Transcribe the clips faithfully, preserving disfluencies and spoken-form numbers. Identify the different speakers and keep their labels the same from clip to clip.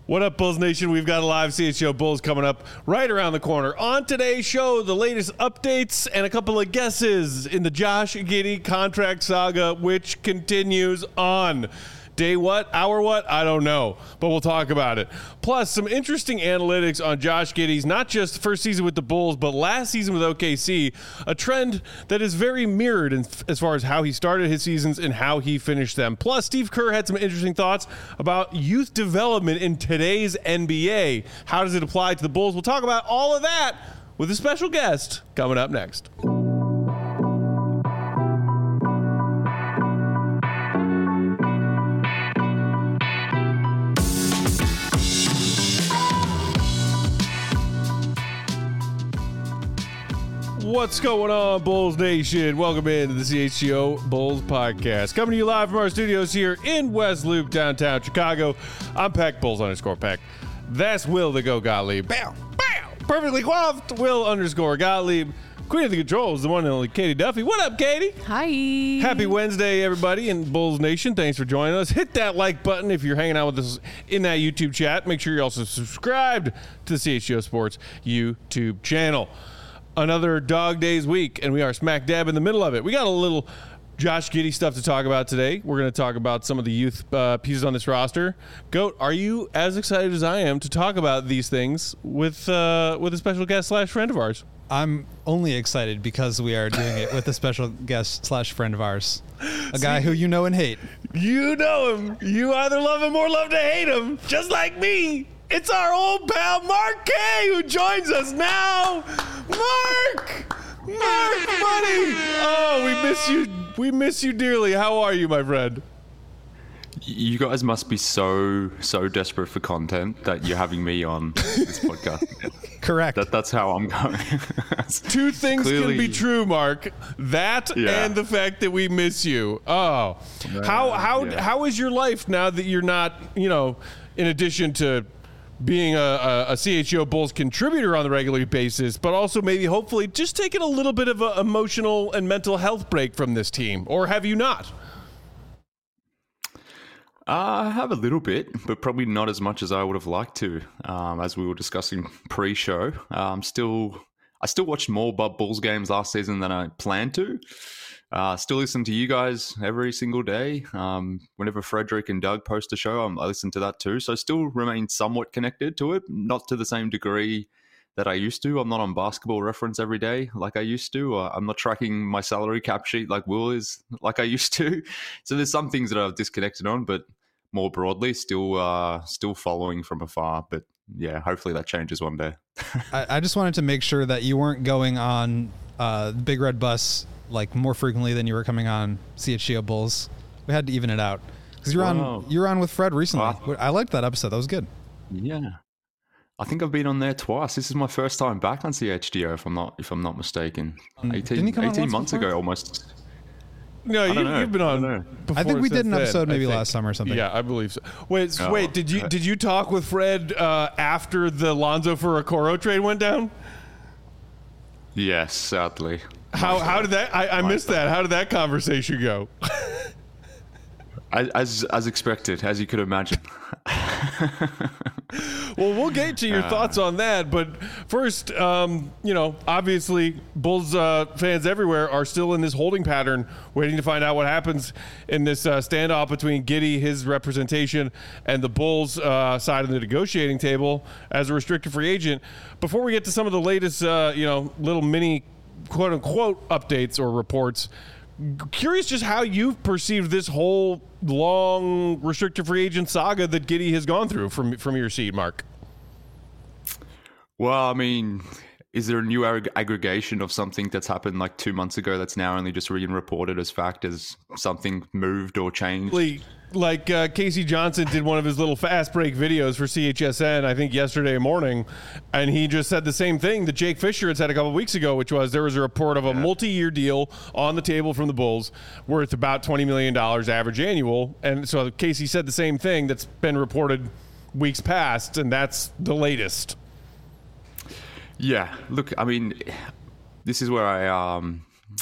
Speaker 1: What up, Bulls Nation? We've got a live C H G O Bulls coming up right around the corner. On today's show, the latest updates and a couple of guesses in the Josh Giddey contract saga, which continues on. Day what? Hour what? I don't know, but we'll talk about it. Plus, some interesting analytics on Josh Giddey's, not just first season with the Bulls, but last season with O K C, a trend that is very mirrored in, as far as how he started his seasons and how he finished them. Plus, Steve Kerr had some interesting thoughts about youth development in today's N B A. How does it apply to the Bulls? We'll talk about all of that with a special guest coming up next. What's going on, Bulls Nation? Welcome into the C H G O Bulls Podcast. Coming to you live from our studios here in West Loop, downtown Chicago. I'm Peck, Bulls underscore Peck. That's Will the Go Gottlieb. Bow, bow. Perfectly coiffed, Will underscore Gottlieb. Queen of the Controls, the one and only Katie Duffy. What up, Katie?
Speaker 2: Hi.
Speaker 1: Happy Wednesday, everybody in Bulls Nation. Thanks for joining us. Hit that like button if you're hanging out with us in that YouTube chat. Make sure you're also subscribed to the C H G O Sports YouTube channel. Another dog days week, and we are smack dab in the middle of it. We got a little Josh Giddey stuff to talk about today. We're going to talk about some of the youth uh, pieces on this roster. Goat, are you as excited as I am to talk about these things with uh, with a special guest slash friend of ours?
Speaker 3: I'm only excited because we are doing it with a special guest slash friend of ours, a guy who you know and hate.
Speaker 1: You know him. You either love him or love to hate him, just like me. It's our old pal Mark K who joins us now. Mark! Mark, buddy! Oh, we miss you. We miss you dearly. How are you, my friend?
Speaker 4: You guys must be so, so desperate for content that you're having me on this podcast.
Speaker 3: Correct.
Speaker 4: That, that's how I'm going.
Speaker 1: Two things
Speaker 4: Clearly.
Speaker 1: can be true, Mark. That
Speaker 4: Yeah.
Speaker 1: and the fact that we miss you. Oh. How how
Speaker 4: yeah.
Speaker 1: how is your life now that you're not, you know, in addition to being a, a, a C H G O Bulls contributor on the regular basis, but also maybe hopefully just taking a little bit of an emotional and mental health break from this team? Or have you not?
Speaker 4: Uh, I have a little bit, but probably not as much as I would have liked to. Um, as we were discussing pre-show, um, still, I still watched more Bub Bulls games last season than I planned to. Uh, still listen to you guys every single day. Um, whenever Frederick and Doug post a show, I'm, I listen to that too. So I still remain somewhat connected to it, not to the same degree that I used to. I'm not on Basketball Reference every day like I used to. Uh, I'm not tracking my salary cap sheet like Will is like I used to. So there's some things that I've disconnected on, but more broadly, still uh, still following from afar. But yeah, hopefully that changes one day.
Speaker 3: I, I just wanted to make sure that you weren't going on uh, the Big Red Bus like more frequently than you were coming on C H G O Bulls. We had to even it out because you're
Speaker 4: Wow.
Speaker 3: on you're on with Fred recently.
Speaker 4: Wow.
Speaker 3: I liked that episode. That was good.
Speaker 4: Yeah. I think I've been on there twice. This is my first time back on C H G O, if I'm not if I'm not mistaken.
Speaker 3: Didn't
Speaker 4: eighteen,
Speaker 3: he come on
Speaker 4: eighteen
Speaker 3: once
Speaker 4: months
Speaker 3: before?
Speaker 4: ago, almost.
Speaker 1: No, you,
Speaker 4: don't know.
Speaker 1: you've been
Speaker 4: I
Speaker 1: on.
Speaker 4: don't know.
Speaker 1: before
Speaker 3: I think we
Speaker 1: since
Speaker 3: did an
Speaker 1: then,
Speaker 3: episode
Speaker 1: I
Speaker 3: maybe
Speaker 1: think.
Speaker 3: last summer or something.
Speaker 1: Yeah, I believe so. Wait,
Speaker 4: Oh,
Speaker 1: wait. Did you
Speaker 4: okay.
Speaker 1: did you talk with Fred uh, after the Lonzo for Okoro trade went down?
Speaker 4: Yes, sadly.
Speaker 1: How how did that? I, I missed that. How did that conversation go?
Speaker 4: As, as as expected, as you could imagine.
Speaker 1: Well, we'll get to your
Speaker 4: Uh.
Speaker 1: thoughts on that, but first, um, you know, obviously, Bulls uh, fans everywhere are still in this holding pattern, waiting to find out what happens in this uh, standoff between Giddey, his representation, and the Bulls uh, side of the negotiating table as a restricted free agent. Before we get to some of the latest, uh, you know, little mini quote unquote updates or reports, curious just how you've perceived this whole long restricted free agent saga that Giddey has gone through from from your seat, Mark.
Speaker 4: Well, I mean, is there a new ag- aggregation of something that's happened like two months ago that's now only just being reported as fact as something moved or changed?
Speaker 1: Like, like uh, Casey Johnson did one of his little fast break videos for C H S N, I think yesterday morning, and he just said the same thing that Jake Fisher had said a couple of weeks ago, which was there was a report of a
Speaker 4: Yeah.
Speaker 1: multi-year deal on the table from the Bulls worth about twenty million dollars average annual. And so Casey said the same thing that's been reported weeks past, and that's the latest.
Speaker 4: Yeah, look, I mean, this is where I um,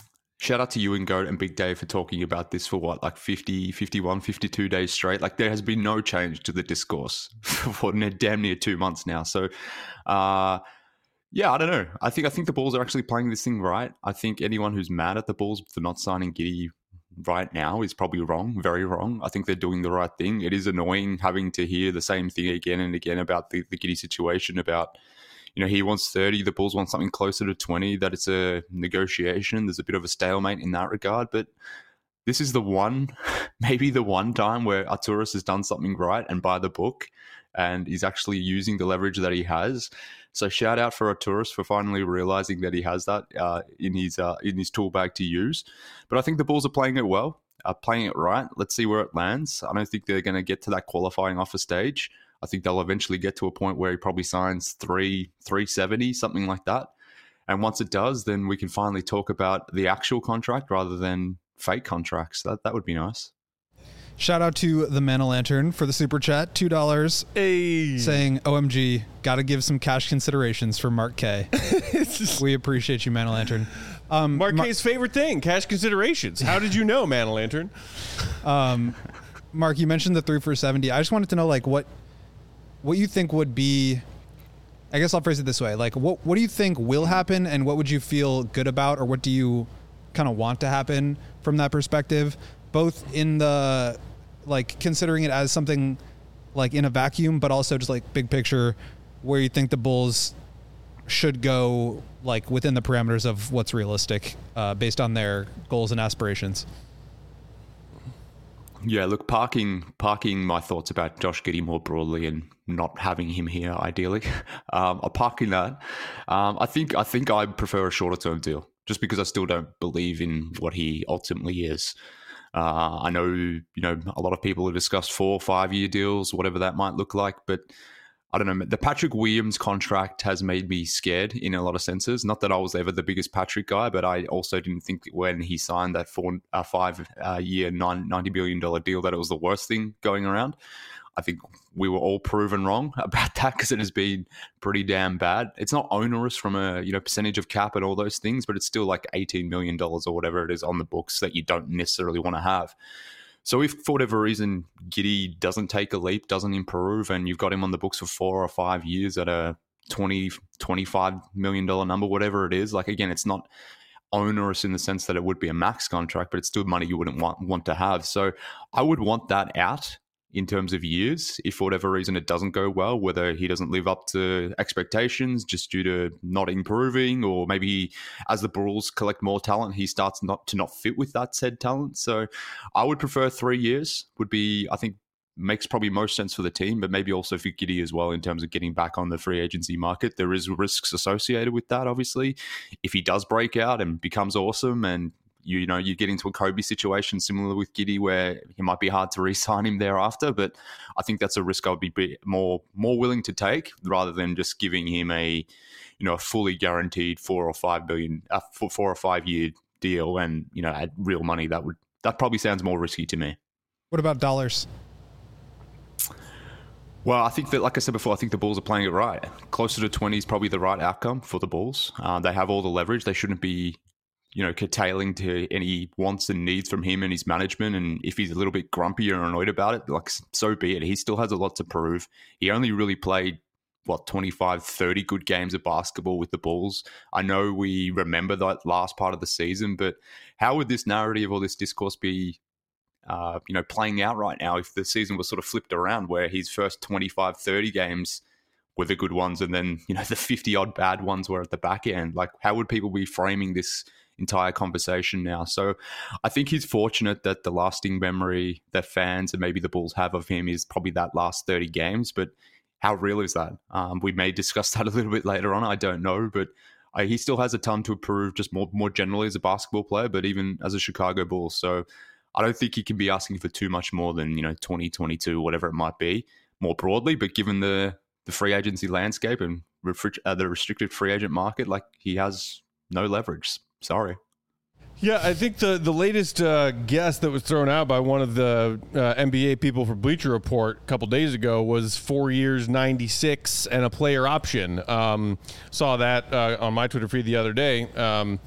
Speaker 4: shout out to you and Goat and Big Dave for talking about this for what, like fifty, fifty-one, fifty-two days straight. Like there has been no change to the discourse for damn near two months now. So, uh, yeah, I don't know. I think I think the Bulls are actually playing this thing right. I think anyone who's mad at the Bulls for not signing Giddey right now is probably wrong, very wrong. I think they're doing the right thing. It is annoying having to hear the same thing again and again about the, the Giddey situation, about, you know, he wants thirty, the Bulls want something closer to twenty, that it's a negotiation. There's a bit of a stalemate in that regard. But this is the one, maybe the one time where Arturas has done something right and by the book, and he's actually using the leverage that he has. So shout out for Arturas for finally realizing that he has that uh, in his uh, in his tool bag to use. But I think the Bulls are playing it well, uh, playing it right. Let's see where it lands. I don't think they're going to get to that qualifying offer stage. I think they'll eventually get to a point where he probably signs three, three seventy, something like that. And once it does, then we can finally talk about the actual contract rather than fake contracts. That that would be nice.
Speaker 3: Shout out to the Man o' Lantern for the super chat, two dollars,
Speaker 1: hey.
Speaker 3: saying, O M G, got to give some cash considerations for Mark K. We appreciate you, Man o' Lantern. Um,
Speaker 1: Mark
Speaker 3: Mar-
Speaker 1: K's favorite thing, cash considerations. How did you know, Man o' Lantern?
Speaker 3: Um, Mark, you mentioned the three for seventy. I just wanted to know, like, what what you think would be, I guess I'll phrase it this way. Like, what, what do you think will happen, and what would you feel good about, or what do you kind of want to happen from that perspective? Both in the, like, considering it as something like in a vacuum, but also just like big picture, where you think the Bulls should go, like within the parameters of what's realistic, uh, based on their goals and aspirations.
Speaker 4: Yeah, look, parking parking my thoughts about Josh Giddey more broadly and not having him here ideally. Um, I'm parking that. Um, I think I think I prefer a shorter term deal, just because I still don't believe in what he ultimately is. Uh, I know, you know, a lot of people have discussed four, five-year deals, whatever that might look like, but I don't know. The Patrick Williams contract has made me scared in a lot of senses. Not that I was ever the biggest Patrick guy, but I also didn't think when he signed that four, uh, five-year, uh, ninety billion dollars deal that it was the worst thing going around. I think we were all proven wrong about that, because it has been pretty damn bad. It's not onerous from a, you know, percentage of cap and all those things, but it's still like eighteen million dollars or whatever it is on the books that you don't necessarily want to have. So if for whatever reason Giddey doesn't take a leap, doesn't improve, and you've got him on the books for four or five years at a twenty, twenty-five million dollars number, whatever it is, like, again, it's not onerous in the sense that it would be a max contract, but it's still money you wouldn't want, want to have. So I would want that out in terms of years, if for whatever reason it doesn't go well, whether he doesn't live up to expectations just due to not improving, or maybe as the Bulls collect more talent, he starts not to not fit with that said talent. So I would prefer three years would be, I think, makes probably most sense for the team, but maybe also for Giddey as well in terms of getting back on the free agency market. There is risks associated with that, obviously. If he does break out and becomes awesome, and You, you know, you get into a Kobe situation similar with Giddey where it might be hard to re-sign him thereafter. But I think that's a risk I would be more more willing to take rather than just giving him a, you know, a fully guaranteed four or five billion, uh, four or five year deal, and, you know, at real money. That would that probably sounds more risky to me.
Speaker 3: What about dollars?
Speaker 4: Well, I think that, like I said before, I think the Bulls are playing it right. Closer to twenty is probably the right outcome for the Bulls. Uh, they have all the leverage. They shouldn't be, you know, curtailing to any wants and needs from him and his management. And if he's a little bit grumpy or annoyed about it, like, so be it. He still has a lot to prove. He only really played, what, twenty-five, thirty good games of basketball with the Bulls. I know we remember that last part of the season, but how would this narrative or this discourse be, uh, you know, playing out right now if the season was sort of flipped around, where his first twenty-five, thirty games were the good ones, and then, you know, the fifty-odd bad ones were at the back end? Like, how would people be framing this entire conversation now? So I think he's fortunate that the lasting memory that fans and maybe the Bulls have of him is probably that last thirty games. But how real is that? Um, we may discuss that a little bit later on. I don't know, but I, he still has a ton to prove, just more more generally as a basketball player, but even as a Chicago Bull. So I don't think he can be asking for too much more than, you know, twenty, twenty-two, whatever it might be, more broadly. But given the the free agency landscape and refri- uh, the restricted free agent market, like, he has no leverage. Sorry.
Speaker 1: Yeah, I think the, the latest uh, guess that was thrown out by one of the uh, N B A people for Bleacher Report a couple days ago was four years, ninety-six, and a player option. Um, saw that uh, on my Twitter feed the other day. Um,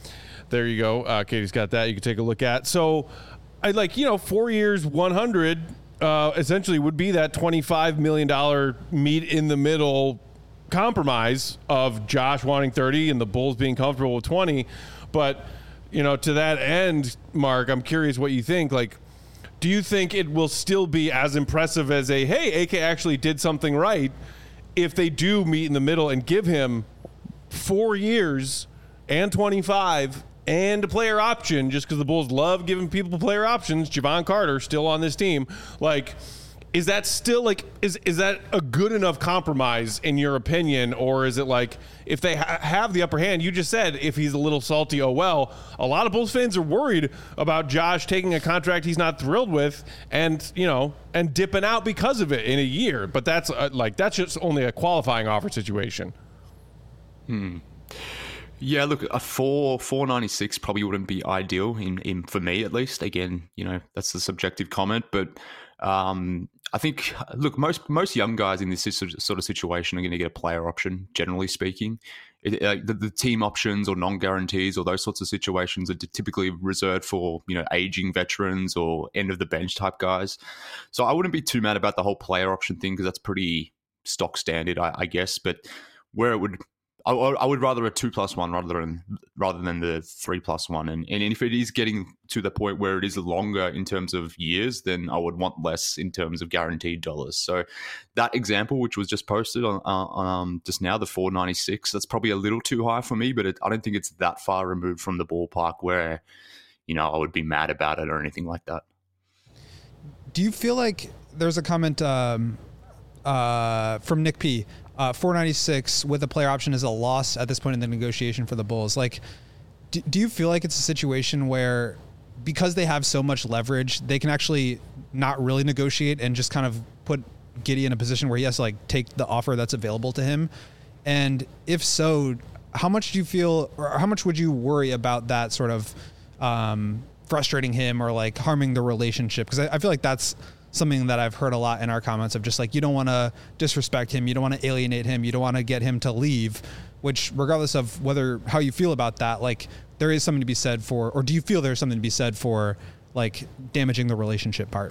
Speaker 1: there you go. Uh, Katie's got that. You can take a look at. So, I like, you know, four years, one hundred, uh, essentially would be that twenty-five million dollars meet in the middle compromise of Josh wanting thirty and the Bulls being comfortable with twenty. But, you know, to that end, Mark, I'm curious what you think. Like, do you think it will still be as impressive as a, hey, A K actually did something right if they do meet in the middle and give him four years and twenty-five and a player option, just because the Bulls love giving people player options? Javon Carter still on this team. Like, is that still like, is is that a good enough compromise in your opinion? Or is it like, if they ha- have the upper hand, you just said if he's a little salty, oh well, a lot of Bulls fans are worried about Josh taking a contract he's not thrilled with and, you know, and dipping out because of it in a year. But that's uh, like, that's just only a qualifying offer situation.
Speaker 4: Hmm. Yeah, look, a four four ninety six probably wouldn't be ideal in, in for me at least. Again, you know, that's the subjective comment, but um, I think look, most most young guys in this sort of situation are going to get a player option. Generally speaking, it, uh, the, the team options or non guarantees or those sorts of situations are typically reserved for, you know, aging veterans or end of the bench type guys. So I wouldn't be too mad about the whole player option thing because that's pretty stock standard, I, I guess. But where it would I, I would rather a two plus one rather than rather than the three plus one. And, and if it is getting to the point where it is longer in terms of years, then I would want less in terms of guaranteed dollars. So that example, which was just posted on, uh, on um, just now, the four ninety-six, that's probably a little too high for me, but it, I don't think it's that far removed from the ballpark where, you know, I would be mad about it or anything like that.
Speaker 3: Do you feel like there's a comment um, uh, from Nick P. Uh, four ninety-six with a player option is a loss at this point in the negotiation for the Bulls. Like, do, do you feel like it's a situation where because they have so much leverage, they can actually not really negotiate and just kind of put Giddey in a position where he has to like take the offer that's available to him? And if so, how much do you feel, or how much would you worry about that sort of um, frustrating him or like harming the relationship? Because I, I feel like that's something that I've heard a lot in our comments of just like, you don't want to disrespect him. You don't want to alienate him. You don't want to get him to leave, which regardless of whether, how you feel about that, like there is something to be said for, or do you feel there's something to be said for like damaging the relationship part?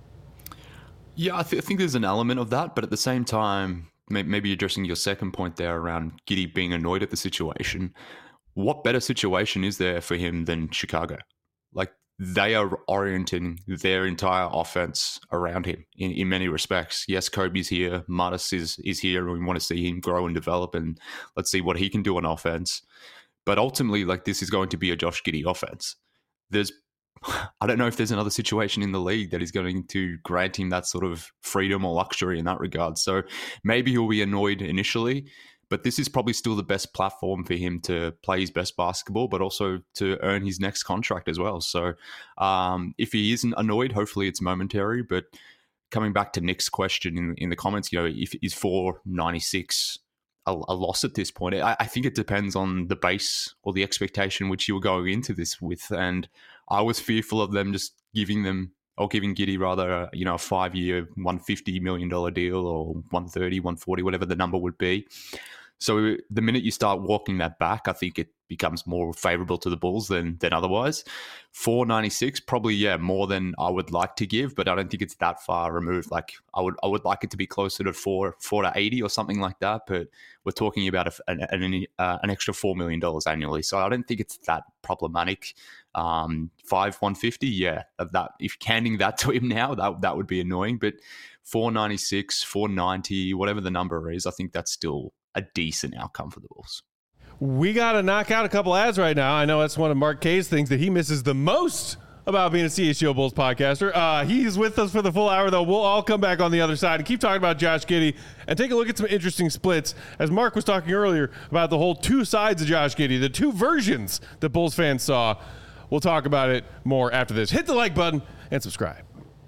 Speaker 4: Yeah, I, th- I think there's an element of that, but at the same time, may- maybe addressing your second point there around Giddey being annoyed at the situation, what better situation is there for him than Chicago? Like, they are orienting their entire offense around him in, in many respects. Yes, Kobe's here, Martis is is here, and we want to see him grow and develop, and let's see what he can do on offense. But ultimately, like, this is going to be a Josh Giddey offense. There's, I don't know if there's another situation in the league that is going to grant him that sort of freedom or luxury in that regard. So maybe he'll be annoyed initially, but this is probably still the best platform for him to play his best basketball, but also to earn his next contract as well. So um, if he isn't annoyed, hopefully it's momentary. But coming back to Nick's question in, in the comments, you know, if is four ninety-six a, a loss at this point? I, I think it depends on the base or the expectation which you were going into this with. And I was fearful of them just giving them, or giving Giddey rather, a, you know, a five-year, one hundred fifty million dollars deal or one thirty, one forty, whatever the number would be. So the minute you start walking that back, I think it becomes more favorable to the Bulls than than otherwise. four ninety-six, probably, yeah, more than I would like to give, but I don't think it's that far removed. Like, I would I would like it to be closer to four, four to eighty or something like that, but we're talking about a, an, an, uh, an extra four million dollars annually. So I don't think it's that problematic. Um, five, one fifty, yeah, that if handing that to him now, that that would be annoying, but four ninety-six, four ninety, whatever the number is, I think that's still a decent outcome for the Bulls.
Speaker 1: We got to knock out a couple ads right now. I know that's one of Mark K's things that he misses the most about being a C H G O Bulls podcaster. Uh, he's with us for the full hour, though. We'll all come back on the other side and keep talking about Josh Giddey and take a look at some interesting splits. As Mark was talking earlier about the whole two sides of Josh Giddey, the two versions that Bulls fans saw. We'll talk about it more after this. Hit the like button and subscribe.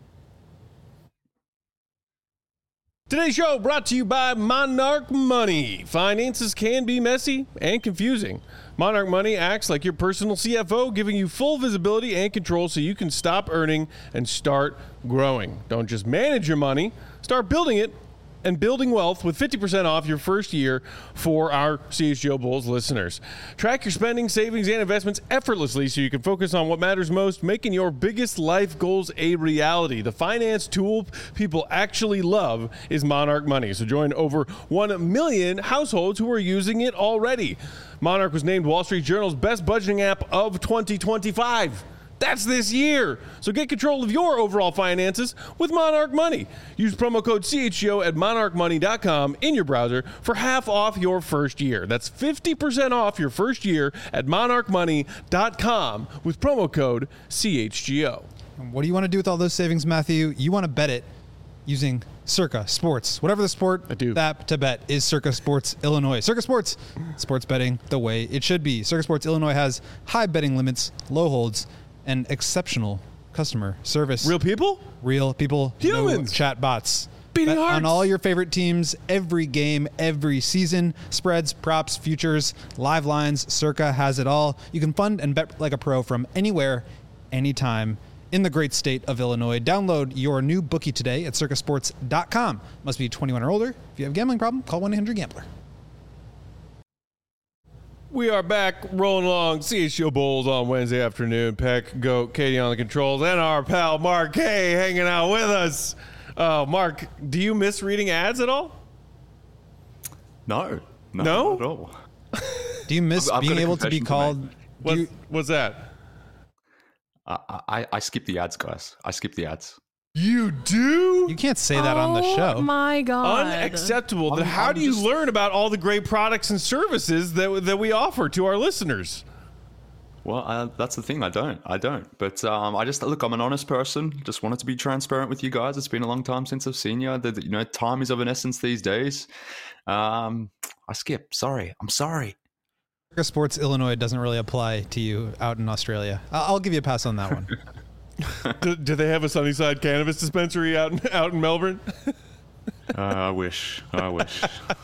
Speaker 1: Today's show brought to you by Monarch Money. Finances can be messy and confusing. Monarch Money acts like your personal C F O, giving you full visibility and control so you can stop earning and start growing. Don't just manage your money, start building it and building wealth with fifty percent off your first year for our C H G O Bulls listeners. Track your spending, savings, and investments effortlessly so you can focus on what matters most, making your biggest life goals a reality. The finance tool people actually love is Monarch Money. So join over one million households who are using it already. Monarch was named Wall Street Journal's best budgeting app of twenty twenty-five. That's this year. So get control of your overall finances with Monarch Money. Use promo code C H G O at monarch money dot com in your browser for half off your first year. That's fifty percent off your first year at monarch money dot com with promo code C H G O.
Speaker 3: What do you want to do with all those savings, Matthew? You want to bet it using Circa Sports. Whatever the sport,
Speaker 1: I do.
Speaker 3: The app to bet is Circa Sports Illinois. Circa Sports, sports betting the way it should be. Circa Sports Illinois has high betting limits, low holds, and exceptional customer service.
Speaker 1: Real people?
Speaker 3: Real people.
Speaker 1: Humans.
Speaker 3: No chat bots.
Speaker 1: Beating
Speaker 3: Bet
Speaker 1: hearts.
Speaker 3: on all your favorite teams, every game, every season. Spreads, props, futures, live lines. Circa has it all. You can fund and bet like a pro from anywhere, anytime in the great state of Illinois. Download your new bookie today at circa sports dot com. Must be twenty-one or older. If you have a gambling problem, call one eight hundred gambler.
Speaker 1: We are back rolling along C H G O Bulls on Wednesday afternoon. Peck, Goat, Katie on the controls, and our pal Mark K hanging out with us. Uh, Mark, do you miss reading ads at all?
Speaker 4: No, no,
Speaker 1: No?
Speaker 4: not at all.
Speaker 3: Do you miss
Speaker 4: I've- I've
Speaker 3: being
Speaker 4: got a
Speaker 3: able to be
Speaker 4: confession to
Speaker 3: called?
Speaker 4: make.
Speaker 3: Do
Speaker 1: What,
Speaker 3: you,
Speaker 1: what's that?
Speaker 4: I, I I skip the ads, guys. I skip the ads.
Speaker 1: You do?
Speaker 3: you can't say that on the show.
Speaker 2: Oh my god.
Speaker 1: Unacceptable. Then
Speaker 4: I'm-
Speaker 1: how
Speaker 4: I'm
Speaker 1: do you
Speaker 4: just-
Speaker 1: learn about all the great products and services that that we offer to our listeners?
Speaker 4: Well, uh, that's the thing. I don't. I don't. But um, I just look. I'm an honest person. Just wanted to be transparent with you guys. It's been a long time since I've seen you. The, the- you know, time is of an essence these days. Um, I skip. Sorry. I'm sorry.
Speaker 3: Circa Sports Illinois doesn't really apply to you out in Australia. I- I'll give you a pass on that one.
Speaker 1: do, do they have a Sunnyside cannabis dispensary out in, out in Melbourne?
Speaker 4: Uh, I wish. I wish.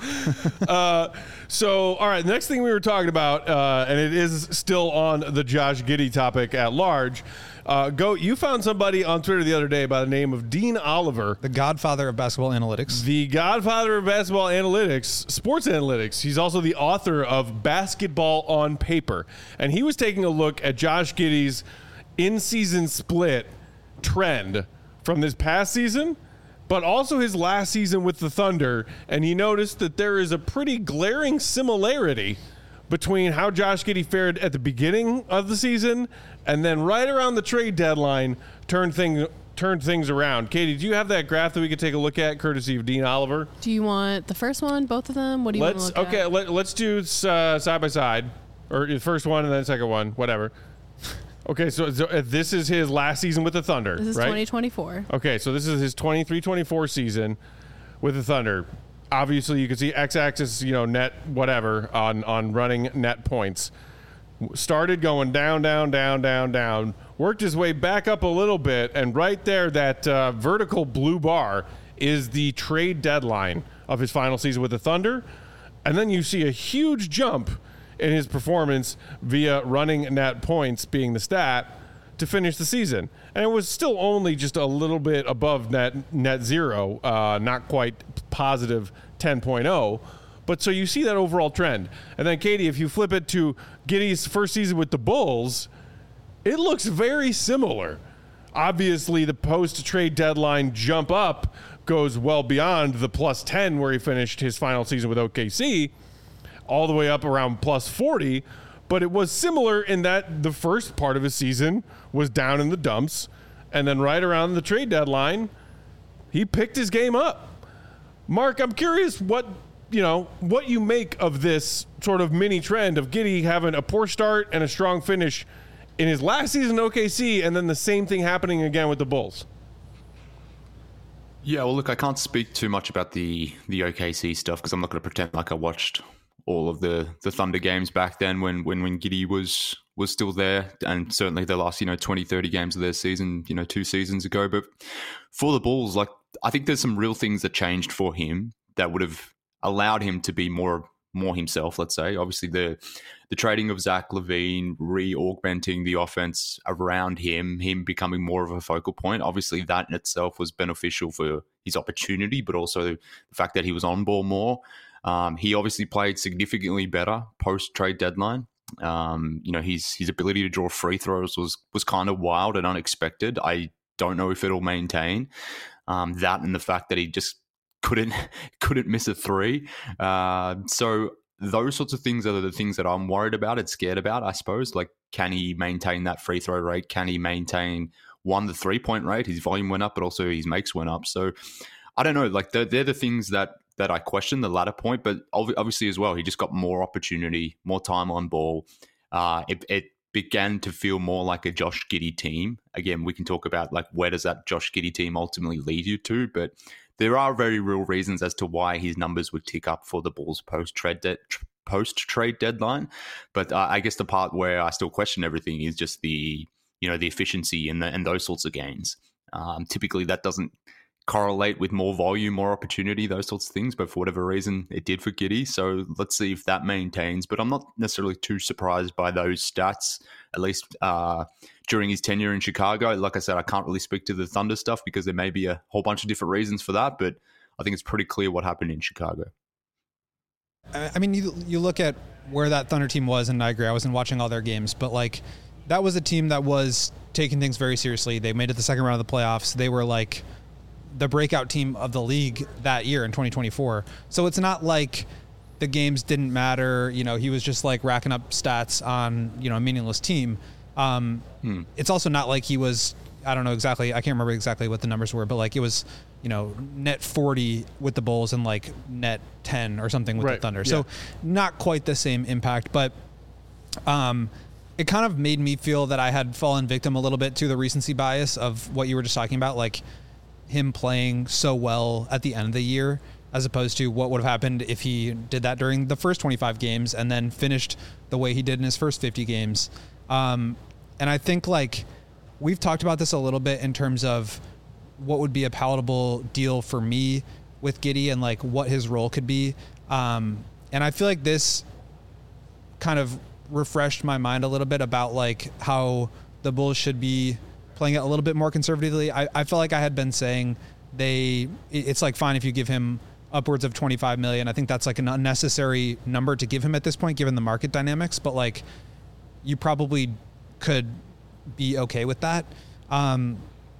Speaker 1: Uh, so, all right, the next thing we were talking about, uh, and it is still on the Josh Giddey topic at large. Uh, Goat, you found somebody on Twitter the other day by the name of Dean Oliver,
Speaker 3: The godfather of basketball analytics.
Speaker 1: the godfather of basketball analytics, sports analytics. He's also the author of Basketball on Paper. And he was taking a look at Josh Giddey's in-season split trend from this past season, but also his last season with the Thunder. And he noticed that there is a pretty glaring similarity between how Josh Giddey fared at the beginning of the season and then right around the trade deadline turned thing, turned things around. Katie, do you have that graph that we could take a look at, courtesy of Dean Oliver?
Speaker 2: Do you want the first one, both of them? What do you
Speaker 1: Let's
Speaker 2: want to look
Speaker 1: okay.
Speaker 2: at?
Speaker 1: Let, let's do uh, side by side, or the first one and then the second one, whatever. Okay, so, so uh, this is his last season with the Thunder,
Speaker 2: This is
Speaker 1: right?
Speaker 2: twenty twenty-four.
Speaker 1: Okay, so this is his twenty-three twenty-four season with the Thunder. Obviously, you can see x-axis, you know, net whatever on on running net points. Started going down, down, down, down, down. Worked his way back up a little bit, and right there, that uh, vertical blue bar is the trade deadline of his final season with the Thunder. And then you see a huge jump in his performance via running net points being the stat to finish the season. And it was still only just a little bit above net net zero, uh, not quite positive ten point oh. But so you see that overall trend. And then, Katie, if you flip it to Giddey's first season with the Bulls, it looks very similar. Obviously, the post-trade deadline jump up goes well beyond the plus ten where he finished his final season with O K C, all the way up around plus forty. But it was similar in that the first part of his season was down in the dumps. And then right around the trade deadline, he picked his game up. Mark, I'm curious what, you know, what you make of this sort of mini trend of Giddey having a poor start and a strong finish in his last season in O K C, and then the same thing happening again with the Bulls.
Speaker 4: Yeah, well, look, I can't speak too much about the the O K C stuff because I'm not going to pretend like I watched all of the, the Thunder games back then when when when Giddey was was still there, and certainly the last, you know, twenty, thirty games of their season, you know, two seasons ago. But for the Bulls, like, I think there's some real things that changed for him that would have allowed him to be more more himself, let's say. Obviously, the the trading of Zach LaVine, re-augmenting the offense around him, him becoming more of a focal point, obviously that in itself was beneficial for his opportunity, but also the fact that he was on ball more. Um, he obviously played significantly better post-trade deadline. Um, you know, his his ability to draw free throws was was kind of wild and unexpected. I don't know if it'll maintain um, that, and the fact that he just couldn't couldn't miss a three. Uh, so those sorts of things are the things that I'm worried about and scared about, I suppose. Like, can he maintain that free throw rate? Can he maintain, one, the three-point rate? His volume went up, but also his makes went up. So I don't know. Like, they're, they're the things that that I question, the latter point. But obviously as well, he just got more opportunity, more time on ball. Uh, it, it began to feel more like a Josh Giddey team. Again, we can talk about, like, where does that Josh Giddey team ultimately lead you to? But there are very real reasons as to why his numbers would tick up for the Bulls post-trade de- post-trade deadline. But uh, I guess the part where I still question everything is just the, you know, the efficiency and, the, and those sorts of gains. Um, typically, that doesn't correlate with more volume, more opportunity, those sorts of things. But for whatever reason, it did for Giddey. So let's see if that maintains. But I'm not necessarily too surprised by those stats, at least uh, during his tenure in Chicago. Like I said, I can't really speak to the Thunder stuff because there may be a whole bunch of different reasons for that. But I think it's pretty clear what happened in Chicago.
Speaker 3: I mean, you you look at where that Thunder team was, and I agree, I wasn't watching all their games, but like that was a team that was taking things very seriously. They made it the second round of the playoffs. They were like the breakout team of the league that year in twenty twenty-four. So it's not like the games didn't matter. You know, he was just like racking up stats on, you know, a meaningless team. Um, hmm. It's also not like he was, I don't know exactly, I can't remember exactly what the numbers were, but like it was, you know, net forty with the Bulls and like net ten or something with
Speaker 1: right.
Speaker 3: the Thunder.
Speaker 1: Yeah.
Speaker 3: So not quite the same impact, but um, it kind of made me feel that I had fallen victim a little bit to the recency bias of what you were just talking about. Like, him playing so well at the end of the year, as opposed to what would have happened if he did that during the first twenty-five games and then finished the way he did in his first fifty games. Um, and I think, like, we've talked about this a little bit in terms of what would be a palatable deal for me with Giddey and like what his role could be. Um, and I feel like this kind of refreshed my mind a little bit about like how the Bulls should be playing it a little bit more conservatively. I, I felt like I had been saying they, it's like fine if you give him upwards of twenty-five million. I think that's like an unnecessary number to give him at this point, given the market dynamics, but like you probably could be okay with that. Um,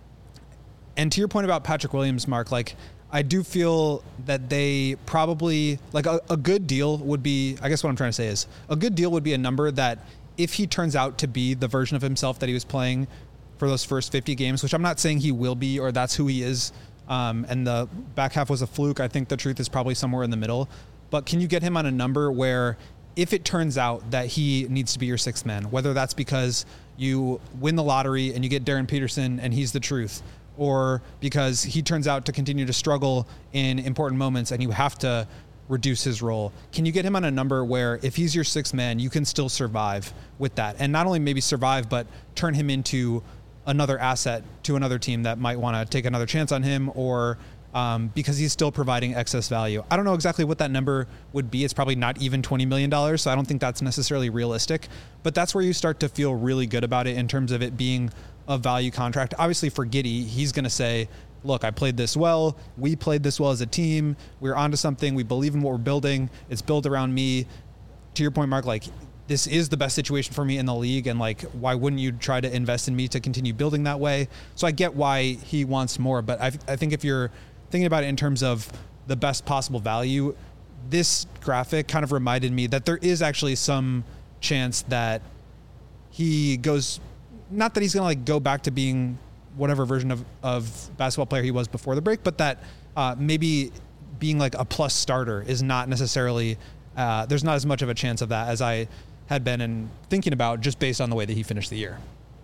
Speaker 3: and to your point about Patrick Williams, Mark, like I do feel that they probably like a, a good deal would be, I guess what I'm trying to say is a good deal would be a number that if he turns out to be the version of himself that he was playing for those first fifty games, which I'm not saying he will be, or that's who he is. Um, and the back half was a fluke. I think the truth is probably somewhere in the middle, but can you get him on a number where if it turns out that he needs to be your sixth man, whether that's because you win the lottery and you get Darren Peterson and he's the truth, or because he turns out to continue to struggle in important moments and you have to reduce his role, can you get him on a number where if he's your sixth man, you can still survive with that? And not only maybe survive, but turn him into another asset to another team that might want to take another chance on him, or um, because he's still providing excess value. I don't know exactly what that number would be. It's probably not even twenty million dollars, so I don't think that's necessarily realistic. But that's where you start to feel really good about it in terms of it being a value contract. Obviously for Giddey, he's going to say, look, I played this well. We played this well as a team. We're onto something. We believe in what we're building. It's built around me. To your point, Mark, like, this is the best situation for me in the league, and like, why wouldn't you try to invest in me to continue building that way? So I get why he wants more, but I, I think if you're thinking about it in terms of the best possible value, this graphic kind of reminded me that there is actually some chance that he goes, not that he's going to like go back to being whatever version of, of basketball player he was before the break, but that uh, maybe being like a plus starter is not necessarily, uh, there's not as much of a chance of that as I had been in thinking about just based on the way that he finished the year.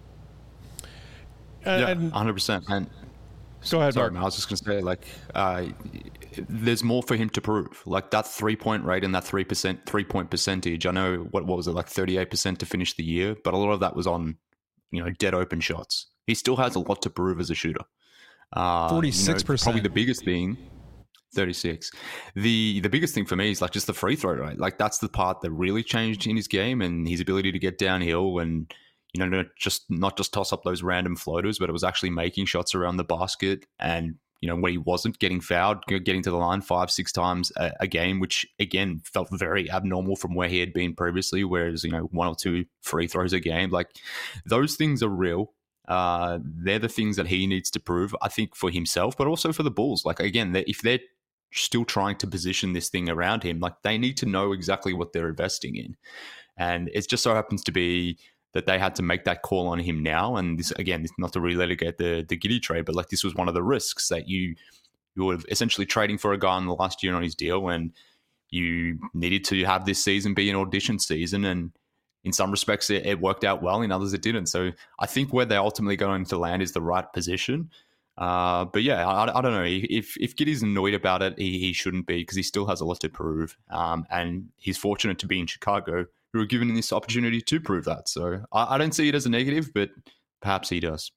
Speaker 4: Yeah, one hundred percent. And
Speaker 1: go ahead,
Speaker 4: sorry,
Speaker 1: Mark.
Speaker 4: man, I was just going to say, like, uh, there's more for him to prove. Like that three-point rate and that three percent three-point percentage. I know, what, what was it, like thirty-eight percent to finish the year, but a lot of that was on, you know, dead open shots. He still has a lot to prove as a shooter. Uh,
Speaker 3: forty-six percent.
Speaker 4: You know, probably the biggest thing. thirty-six. The the biggest thing for me is like just the free throw rate. Like that's the part that really changed in his game and his ability to get downhill and, you know, not just not just toss up those random floaters, but it was actually making shots around the basket. And, you know, when he wasn't getting fouled, getting to the line five, six times a, a game, which again felt very abnormal from where he had been previously, whereas, you know, one or two free throws a game. Like those things are real. Uh, they're the things that he needs to prove, I think, for himself, but also for the Bulls. Like, again, if they're still trying to position this thing around him, like they need to know exactly what they're investing in. And it just so happens to be that they had to make that call on him now. And this, again, not to relitigate the, the Giddey trade, but like this was one of the risks that you, you were essentially trading for a guy in the last year on his deal, and you needed to have this season be an audition season. And in some respects, it, it worked out well. In others, it didn't. So I think where they're ultimately going to land is the right position. Uh, but yeah, I, I don't know. If if Giddey's annoyed about it, he, he shouldn't be, because he still has a lot to prove. Um, and he's fortunate to be in Chicago, who are given this opportunity to prove that. So I, I don't see it as a negative, but perhaps he does.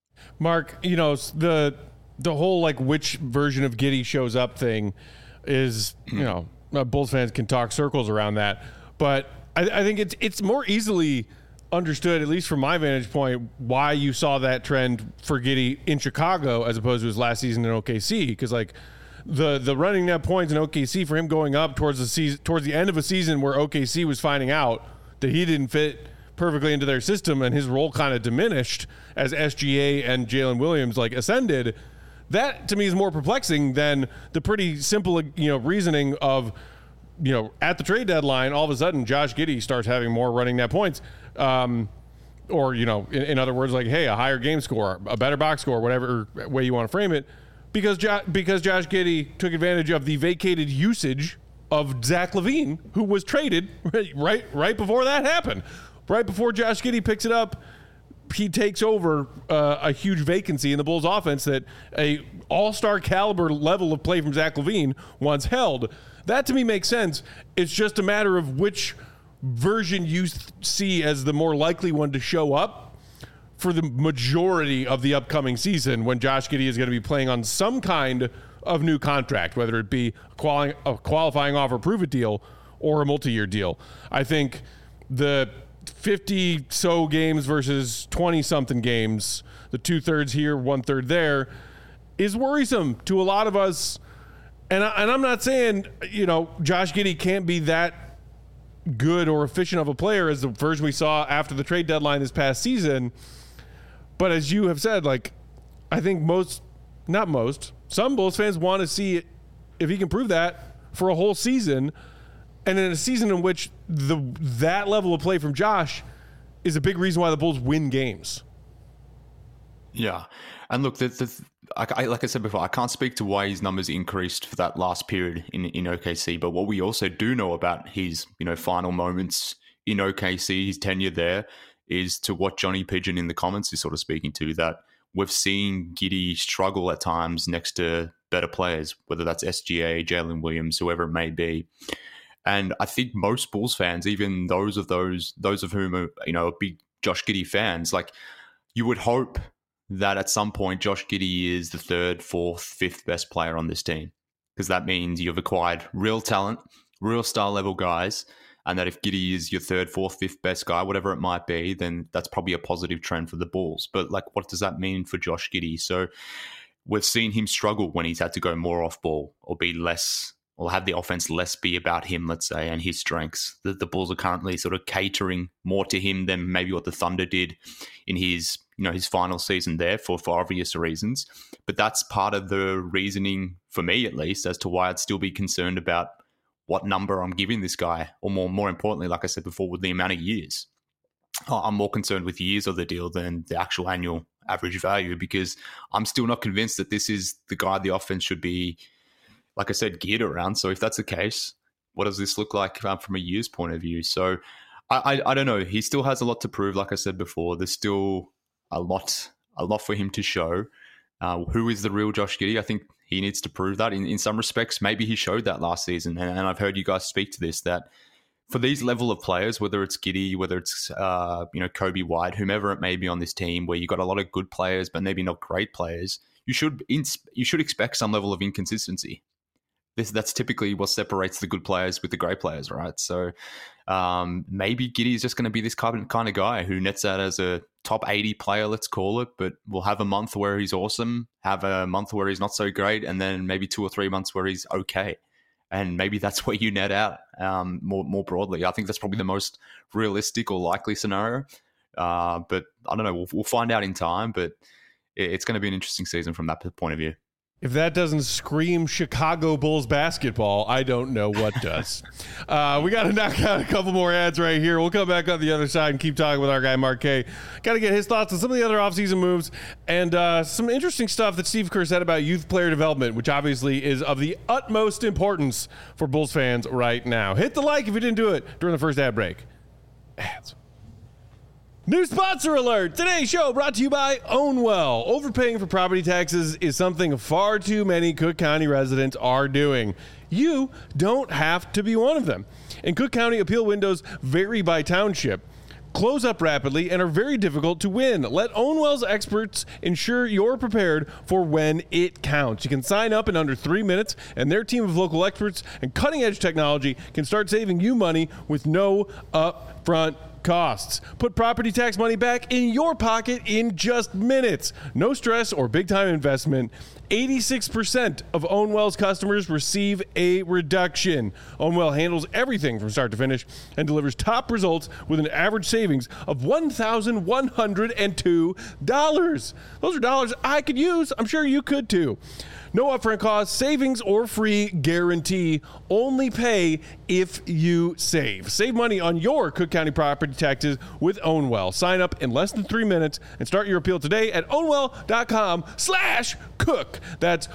Speaker 1: Mark, you know, the the whole like which version of Giddey shows up thing is, you know, Bulls fans can talk circles around that, but I, I think it's it's more easily understood, at least from my vantage point, why you saw that trend for Giddey in Chicago as opposed to his last season in O K C. Because like the the running net points in O K C for him going up towards the season, towards the end of a season where O K C was finding out that he didn't fit perfectly into their system and his role kind of diminished as S G A and Jalen Williams like ascended. That to me is more perplexing than the pretty simple, you know, reasoning of, you know, at the trade deadline, all of a sudden Josh Giddey starts having more running net points. Um, or, you know, in, in other words, like, hey, a higher game score, a better box score, whatever way you want to frame it, because jo- because Josh Giddey took advantage of the vacated usage of Zach LaVine, who was traded right right before that happened. Right before Josh Giddey picks it up, he takes over uh, a huge vacancy in the Bulls offense that a all-star caliber level of play from Zach LaVine once held. That to me makes sense. It's just a matter of which version you th- see as the more likely one to show up for the majority of the upcoming season, when Josh Giddey is going to be playing on some kind of new contract, whether it be a, quali- a qualifying offer prove it deal or a multi-year deal. I think the fifty so games versus twenty something games, the two thirds here, one third there, is worrisome to a lot of us. And, I, and I'm not saying, you know, Josh Giddey can't be that good or efficient of a player as the version we saw after the trade deadline this past season. But as you have said, like, I think most, not most, some Bulls fans want to see it, if he can prove that for a whole season. And in a season in which the that level of play from Josh is a big reason why the Bulls win games.
Speaker 4: Yeah. And look, the, the, I, I, like I said before, I can't speak to why his numbers increased for that last period in, in O K C. But what we also do know about his, you know, final moments in O K C, his tenure there, is to what Johnny Pigeon in the comments is sort of speaking to, that we've seen Giddey struggle at times next to better players, whether that's S G A, Jalen Williams, whoever it may be. And I think most Bulls fans, even those of those those of whom are, you know, big Josh Giddey fans, like, you would hope that at some point Josh Giddey is the third, fourth, fifth best player on this team, because that means you've acquired real talent, real star level guys, and that if Giddey is your third, fourth, fifth best guy, whatever it might be, then that's probably a positive trend for the Bulls. But like, what does that mean for Josh Giddey? So we've seen him struggle when he's had to go more off ball or be less, or have the offense less be about him, let's say, and his strengths. The, the Bulls are currently sort of catering more to him than maybe what the Thunder did in his, you know, his final season there for, for obvious reasons. But that's part of the reasoning, for me at least, as to why I'd still be concerned about what number I'm giving this guy, or more, more importantly, like I said before, with the amount of years. I'm more concerned with years of the deal than the actual annual average value, because I'm still not convinced that this is the guy the offense should be, like I said, geared around. So if that's the case, what does this look like um, from a year's point of view? So I, I I don't know. He still has a lot to prove. Like I said before, there's still a lot a lot for him to show. Uh, who is the real Josh Giddey? I think he needs to prove that. In, in some respects, maybe he showed that last season. And, and I've heard you guys speak to this, that for these level of players, whether it's Giddey, whether it's uh, you know, Kobe White, whomever it may be on this team, where you've got a lot of good players, but maybe not great players, you should you should expect some level of inconsistency. this that's typically what separates the good players with the great players, right? So um, maybe Giddey is just going to be this kind of, kind of guy who nets out as a top eighty player, let's call it, but will have a month where he's awesome, have a month where he's not so great, and then maybe two or three months where he's okay. And maybe that's where you net out um, more more broadly. I think that's probably the most realistic or likely scenario. Uh, but I don't know. We'll, we'll find out in time, but it, it's going to be an interesting season from that point of view.
Speaker 1: If that doesn't scream Chicago Bulls basketball, I don't know what does. uh, we got to knock out a couple more ads right here. We'll come back on the other side and keep talking with our guy, Mark K. Got to get his thoughts on some of the other offseason moves and uh, some interesting stuff that Steve Kerr said about youth player development, which obviously is of the utmost importance for Bulls fans right now. Hit the like if you didn't do it during the first ad break. Ads. New sponsor alert! Today's show brought to you by Ownwell. Overpaying for property taxes is something far too many Cook County residents are doing. You don't have to be one of them. In Cook County, appeal windows vary by township, close up rapidly, and are very difficult to win. Let Ownwell's experts ensure you're prepared for when it counts. You can sign up in under three minutes, and their team of local experts and cutting-edge technology can start saving you money with no upfront costs. Put property tax money back in your pocket in just minutes. No stress or big-time investment. eighty-six percent of Ownwell's customers receive a reduction. Ownwell handles everything from start to finish and delivers top results with an average savings of one thousand one hundred two dollars. Those are dollars I could use. I'm sure you could too. No upfront costs, savings, or free guarantee. Only pay if you save. Save money on your Cook County property taxes with Ownwell. Sign up in less than three minutes and start your appeal today at ownwell.com slash cook. That's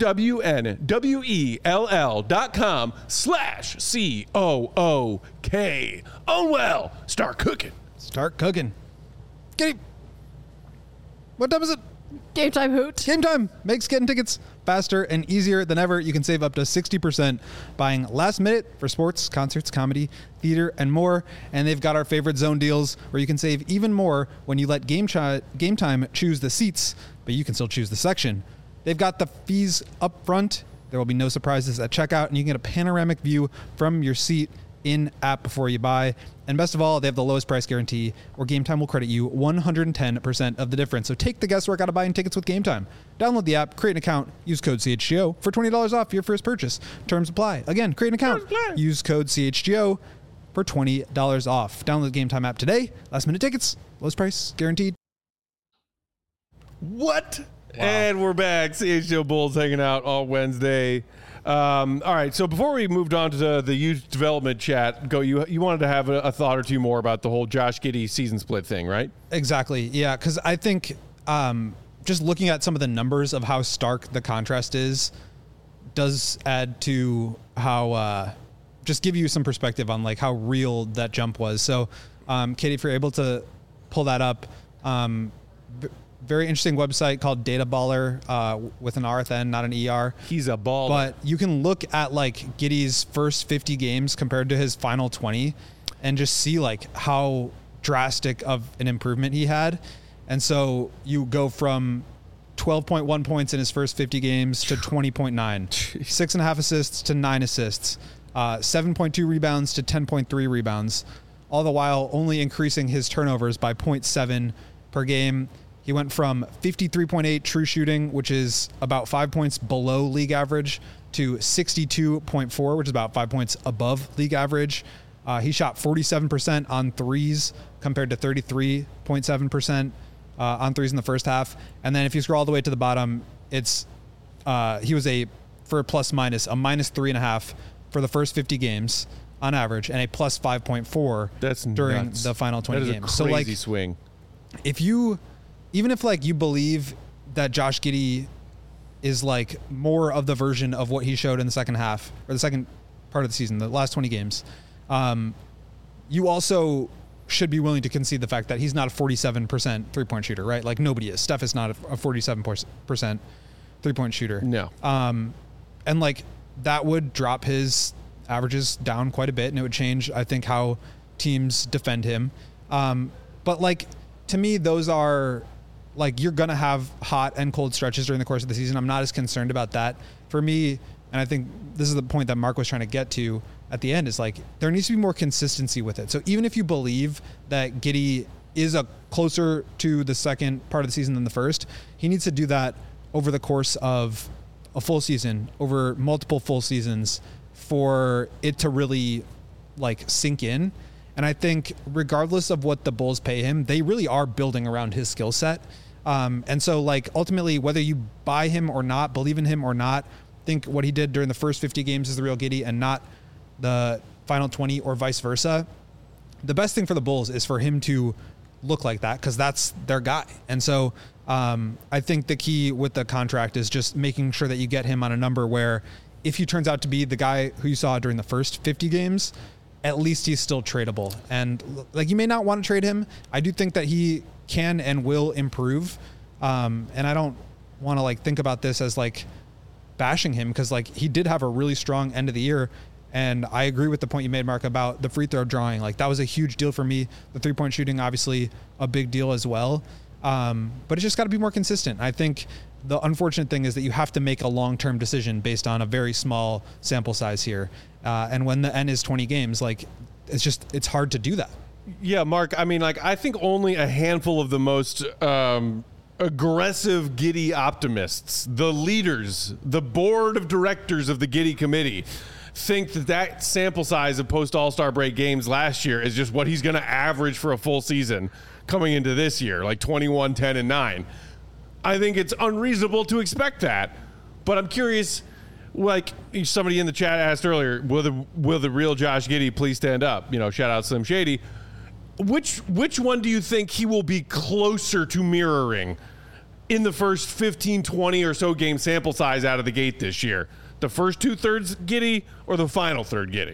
Speaker 1: O-W-N-W-E-L-L dot com slash C O O K. Ownwell. Start cooking.
Speaker 3: Start cooking. Get him. What time is it?
Speaker 2: Game time, hoot.
Speaker 3: Game time makes getting tickets faster and easier than ever. You can save up to sixty percent buying last minute for sports, concerts, comedy, theater, and more. And they've got our favorite zone deals where you can save even more when you let Game, Ch- Game Time choose the seats, but you can still choose the section. They've got the fees up front. There will be no surprises at checkout, and you can get a panoramic view from your seat in-app before you buy. And best of all, they have the lowest price guarantee, or Game Time will credit you one hundred ten percent of the difference. So take the guesswork out of buying tickets with Game Time. Download the app, create an account, use code C H G O for twenty dollars off your first purchase. Terms apply. Again, create an account, use code C H G O for twenty dollars off. Download the Game Time app today. Last minute tickets, lowest price guaranteed.
Speaker 1: What? Wow. And we're back. C H G O Bulls hanging out all Wednesday. Um, all right, so before we moved on to the, the youth development chat, go. You you wanted to have a, a thought or two more about the whole Josh Giddey season split thing, right?
Speaker 3: Exactly. Yeah, because I think um, just looking at some of the numbers of how stark the contrast is does add to how uh, just give you some perspective on like how real that jump was. So, um, Katie, if you're able to pull that up. Um, Very interesting website called Data Baller uh, with an R at the end, not an E R.
Speaker 1: He's a baller.
Speaker 3: But you can look at like Giddey's first fifty games compared to his final twenty and just see like how drastic of an improvement he had. And so you go from twelve point one points in his first fifty games to twenty point nine, six and a half assists to nine assists, uh, seven point two rebounds to ten point three rebounds, all the while only increasing his turnovers by zero point seven per game. He went from fifty-three point eight true shooting, which is about five points below league average, to sixty-two point four, which is about five points above league average. Uh, he shot forty-seven percent on threes compared to thirty-three point seven percent uh, on threes in the first half. And then if you scroll all the way to the bottom, it's uh, he was a, for a plus minus, a minus three and a half for the first fifty games on average, and a plus five point four
Speaker 1: That's
Speaker 3: during
Speaker 1: nuts.
Speaker 3: the final twenty
Speaker 1: that is
Speaker 3: games.
Speaker 1: A crazy
Speaker 3: so like,
Speaker 1: swing.
Speaker 3: if you, even if like you believe that Josh Giddey is like more of the version of what he showed in the second half or the second part of the season, the last twenty games, um, you also should be willing to concede the fact that he's not a forty-seven percent three point shooter, right? Like nobody is. Steph is not a forty-seven percent three point shooter.
Speaker 1: No.
Speaker 3: Um, and like that would drop his averages down quite a bit, and it would change, I think, how teams defend him. Um, but like, to me, those are like, you're going to have hot and cold stretches during the course of the season. I'm not as concerned about that. For me, And I think this is the point that Mark was trying to get to at the end, is like, there needs to be more consistency with it. So even if you believe that Giddey is a closer to the second part of the season than the first, he needs to do that over the course of a full season, over multiple full seasons, for it to really like sink in. And I think regardless of what the Bulls pay him, they really are building around his skill set. Um, and so like ultimately, whether you buy him or not, believe in him or not, think what he did during the first fifty games is the real Giddey and not the final twenty, or vice versa. The best thing for the Bulls is for him to look like that, because that's their guy. And so um, I think the key with the contract is just making sure that you get him on a number where if he turns out to be the guy who you saw during the first fifty games, at least he's still tradable. And like, you may not want to trade him. I do think that he can and will improve. Um, and I don't want to like think about this as like bashing him, because like he did have a really strong end of the year. And I agree with the point you made, Mark, about the free throw drawing. Like, that was a huge deal for me. The three point shooting, obviously a big deal as well. Um, but it's just got to be more consistent. I think the unfortunate thing is that you have to make a long-term decision based on a very small sample size here. Uh, and when the N is twenty games, like, it's just, it's hard to do that.
Speaker 1: Yeah, Mark, I mean, like, I think only a handful of the most um, aggressive Giddey optimists, the leaders, the board of directors of the Giddey committee, think that that sample size of post All-Star break games last year is just what he's going to average for a full season coming into this year, like twenty-one, ten, and nine. I think it's unreasonable to expect that. But I'm curious, like somebody in the chat asked earlier, will the will the real Josh Giddey please stand up? You know, shout out Slim Shady. Which which one do you think he will be closer to mirroring in the first fifteen, twenty or so game sample size out of the gate this year? The first two thirds Giddey or the final third Giddey?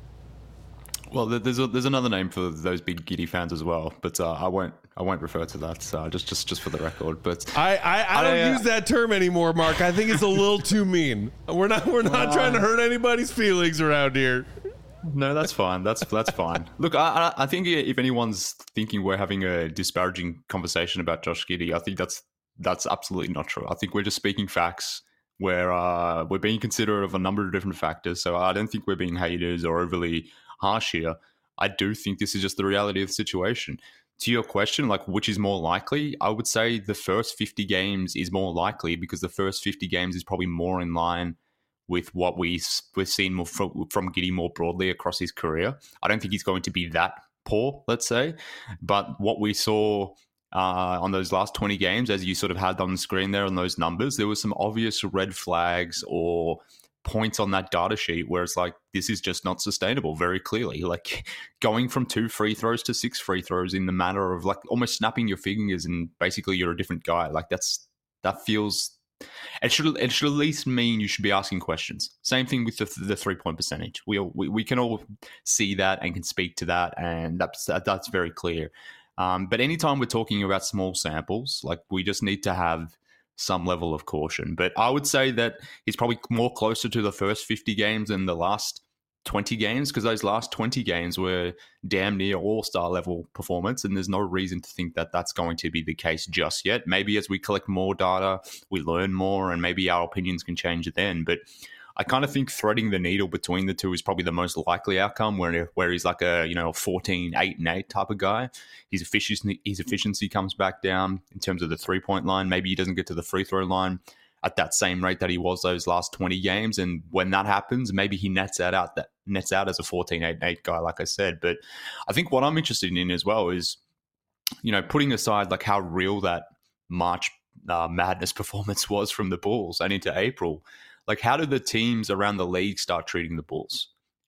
Speaker 4: Well, there's a, there's another name for those big Giddey fans as well, but uh, I won't I won't refer to that. Uh, just just just for the record. But
Speaker 1: I I, I don't I, uh, use that term anymore, Mark. I think it's a little too mean. We're not we're not uh, trying to hurt anybody's feelings around here.
Speaker 4: No, that's fine. That's that's fine. Look, I I think if anyone's thinking we're having a disparaging conversation about Josh Giddey, I think that's that's absolutely not true. I think we're just speaking facts. Where uh, we're being considerate of a number of different factors. So I don't think we're being haters or overly harsh here. I do think this is just the reality of the situation. To your question, like which is more likely, I would say the first fifty games is more likely, because the first fifty games is probably more in line with what we, we've seen more from, from Giddey more broadly across his career. I don't think he's going to be that poor, let's say. But what we saw Uh, on those last twenty games, as you sort of had on the screen there on those numbers, there were some obvious red flags or points on that data sheet where it's like, this is just not sustainable very clearly. Like going from two free throws to six free throws in the matter of like almost snapping your fingers and basically you're a different guy. Like that's, that feels, it should, it should at least mean you should be asking questions. Same thing with the, the three point percentage. We, all, we, we can all see that and can speak to that. And that's, that, that's very clear. Um, but anytime we're talking about small samples, like we just need to have some level of caution. But I would say that he's probably more closer to the first fifty games than the last twenty games, because those last twenty games were damn near all-star level performance, and there's no reason to think that that's going to be the case just yet. Maybe as we collect more data, we learn more, and maybe our opinions can change then. But I kind of think threading the needle between the two is probably the most likely outcome, where where he's like a, you know, fourteen, eight, and eight type of guy. His efficiency, his efficiency comes back down in terms of the three-point line. Maybe he doesn't get to the free throw line at that same rate that he was those last twenty games. And when that happens, maybe he nets that out, that nets out as a fourteen, eight, and eight guy, like I said. But I think what I'm interested in as well is, you know, putting aside like how real that March uh, Madness performance was from the Bulls and into April, like, how do the teams around the league start treating the Bulls?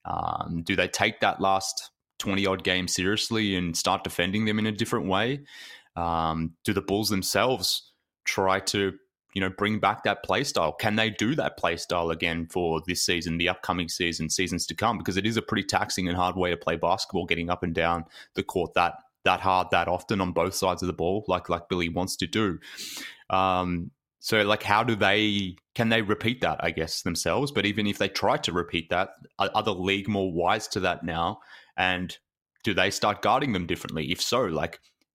Speaker 4: Um, do they take that last twenty-odd games seriously and start defending them in a different way? Um, do the Bulls themselves try to, you know, bring back that play style? Can they do that play style again for this season, the upcoming season, seasons to come? Because it is a pretty taxing and hard way to play basketball, getting up and down the court that that hard, that often on both sides of the ball, like like Billy wants to do. Um, So, like, how do they, can they repeat that, I guess, themselves? But even if they try to repeat that, are the league more wise to that now? And do they start guarding them differently? If so, like,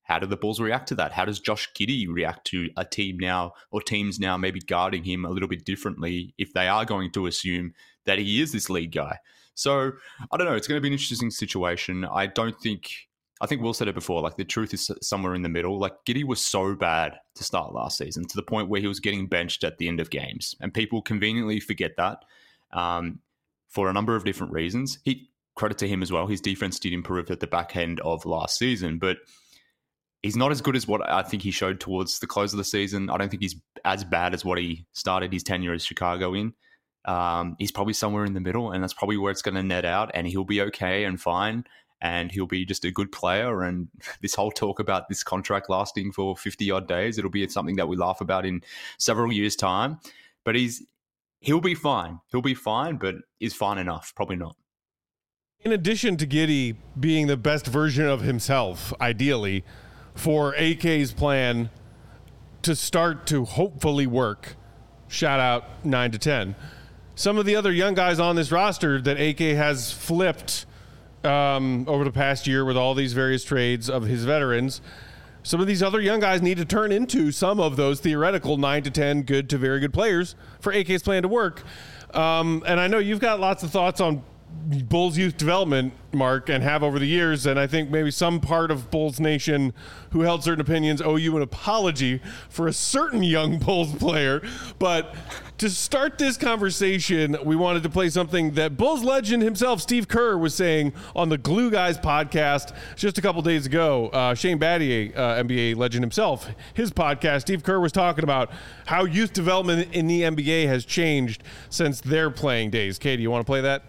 Speaker 4: how do the Bulls react to that? How does Josh Giddey react to a team now or teams now maybe guarding him a little bit differently if they are going to assume that he is this lead guy? So I don't know. It's going to be an interesting situation. I don't think, I think Will said it before, like the truth is somewhere in the middle. Like Giddey was so bad to start last season to the point where he was getting benched at the end of games. And people conveniently forget that um, for a number of different reasons. He, credit to him as well, his defense did improve at the back end of last season, but he's not as good as what I think he showed towards the close of the season. I don't think he's as bad as what he started his tenure as Chicago in. Um, he's probably somewhere in the middle, and that's probably where it's going to net out, and he'll be okay and fine, and he'll be just a good player. And this whole talk about this contract lasting for fifty-odd days, it'll be something that we laugh about in several years' time. But he's he'll be fine. He'll be fine, but is fine enough? Probably not.
Speaker 1: In addition to Giddey being the best version of himself, ideally, for A K's plan to start to hopefully work, shout out nine to ten, some of the other young guys on this roster that A K has flipped um, over the past year with all these various trades of his veterans, some of these other young guys need to turn into some of those theoretical nine to ten good to very good players for A K's plan to work. Um, and I know you've got lots of thoughts on Bulls youth development, Mark, and have over the years, and I think maybe some part of Bulls Nation who held certain opinions owe you an apology for a certain young Bulls player. But to start this conversation, we wanted to play something that Bulls legend himself, Steve Kerr, was saying on the Glue Guys podcast just a couple days ago. Uh, Shane Battier, uh, N B A legend himself, his podcast, Steve Kerr was talking about how youth development in the N B A has changed since their playing days. Katie, you want to play that?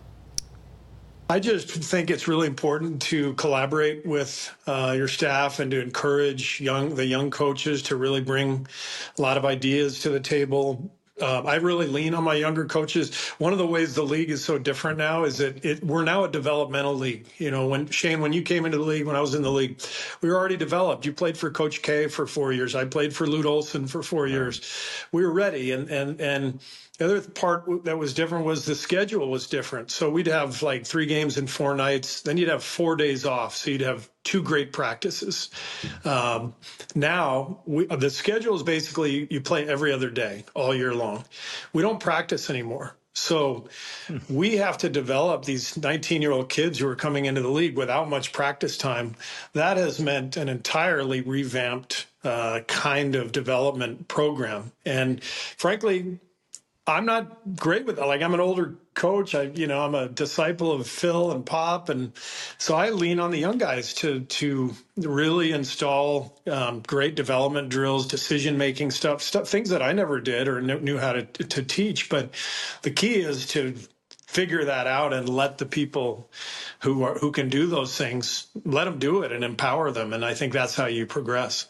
Speaker 5: I just think it's really important to collaborate with uh, your staff and to encourage young the young coaches to really bring a lot of ideas to the table. Uh, I really lean on my younger coaches. One of the ways the league is so different now is that it, we're now a developmental league. You know, when Shane, when you came into the league, when I was in the league, we were already developed. You played for Coach K for four years. I played for Lute Olson for four years. We were ready, and and and. The other part that was different was the schedule was different. So we'd have like three games in four nights. Then you'd have four days off. So you'd have two great practices. Um, now we, the schedule is basically you play every other day all year long. We don't practice anymore. So we have to develop these nineteen-year-old kids who are coming into the league without much practice time. That has meant an entirely revamped uh, kind of development program. And frankly, I'm not great with that. Like, I'm an older coach. I, you know, I'm a disciple of Phil and Pop. And so I lean on the young guys to, to really install um, great development drills, decision-making stuff, stuff, things that I never did or knew how to, to teach. But the key is to figure that out and let the people who are, who can do those things, let them do it and empower them. And I think that's how you progress.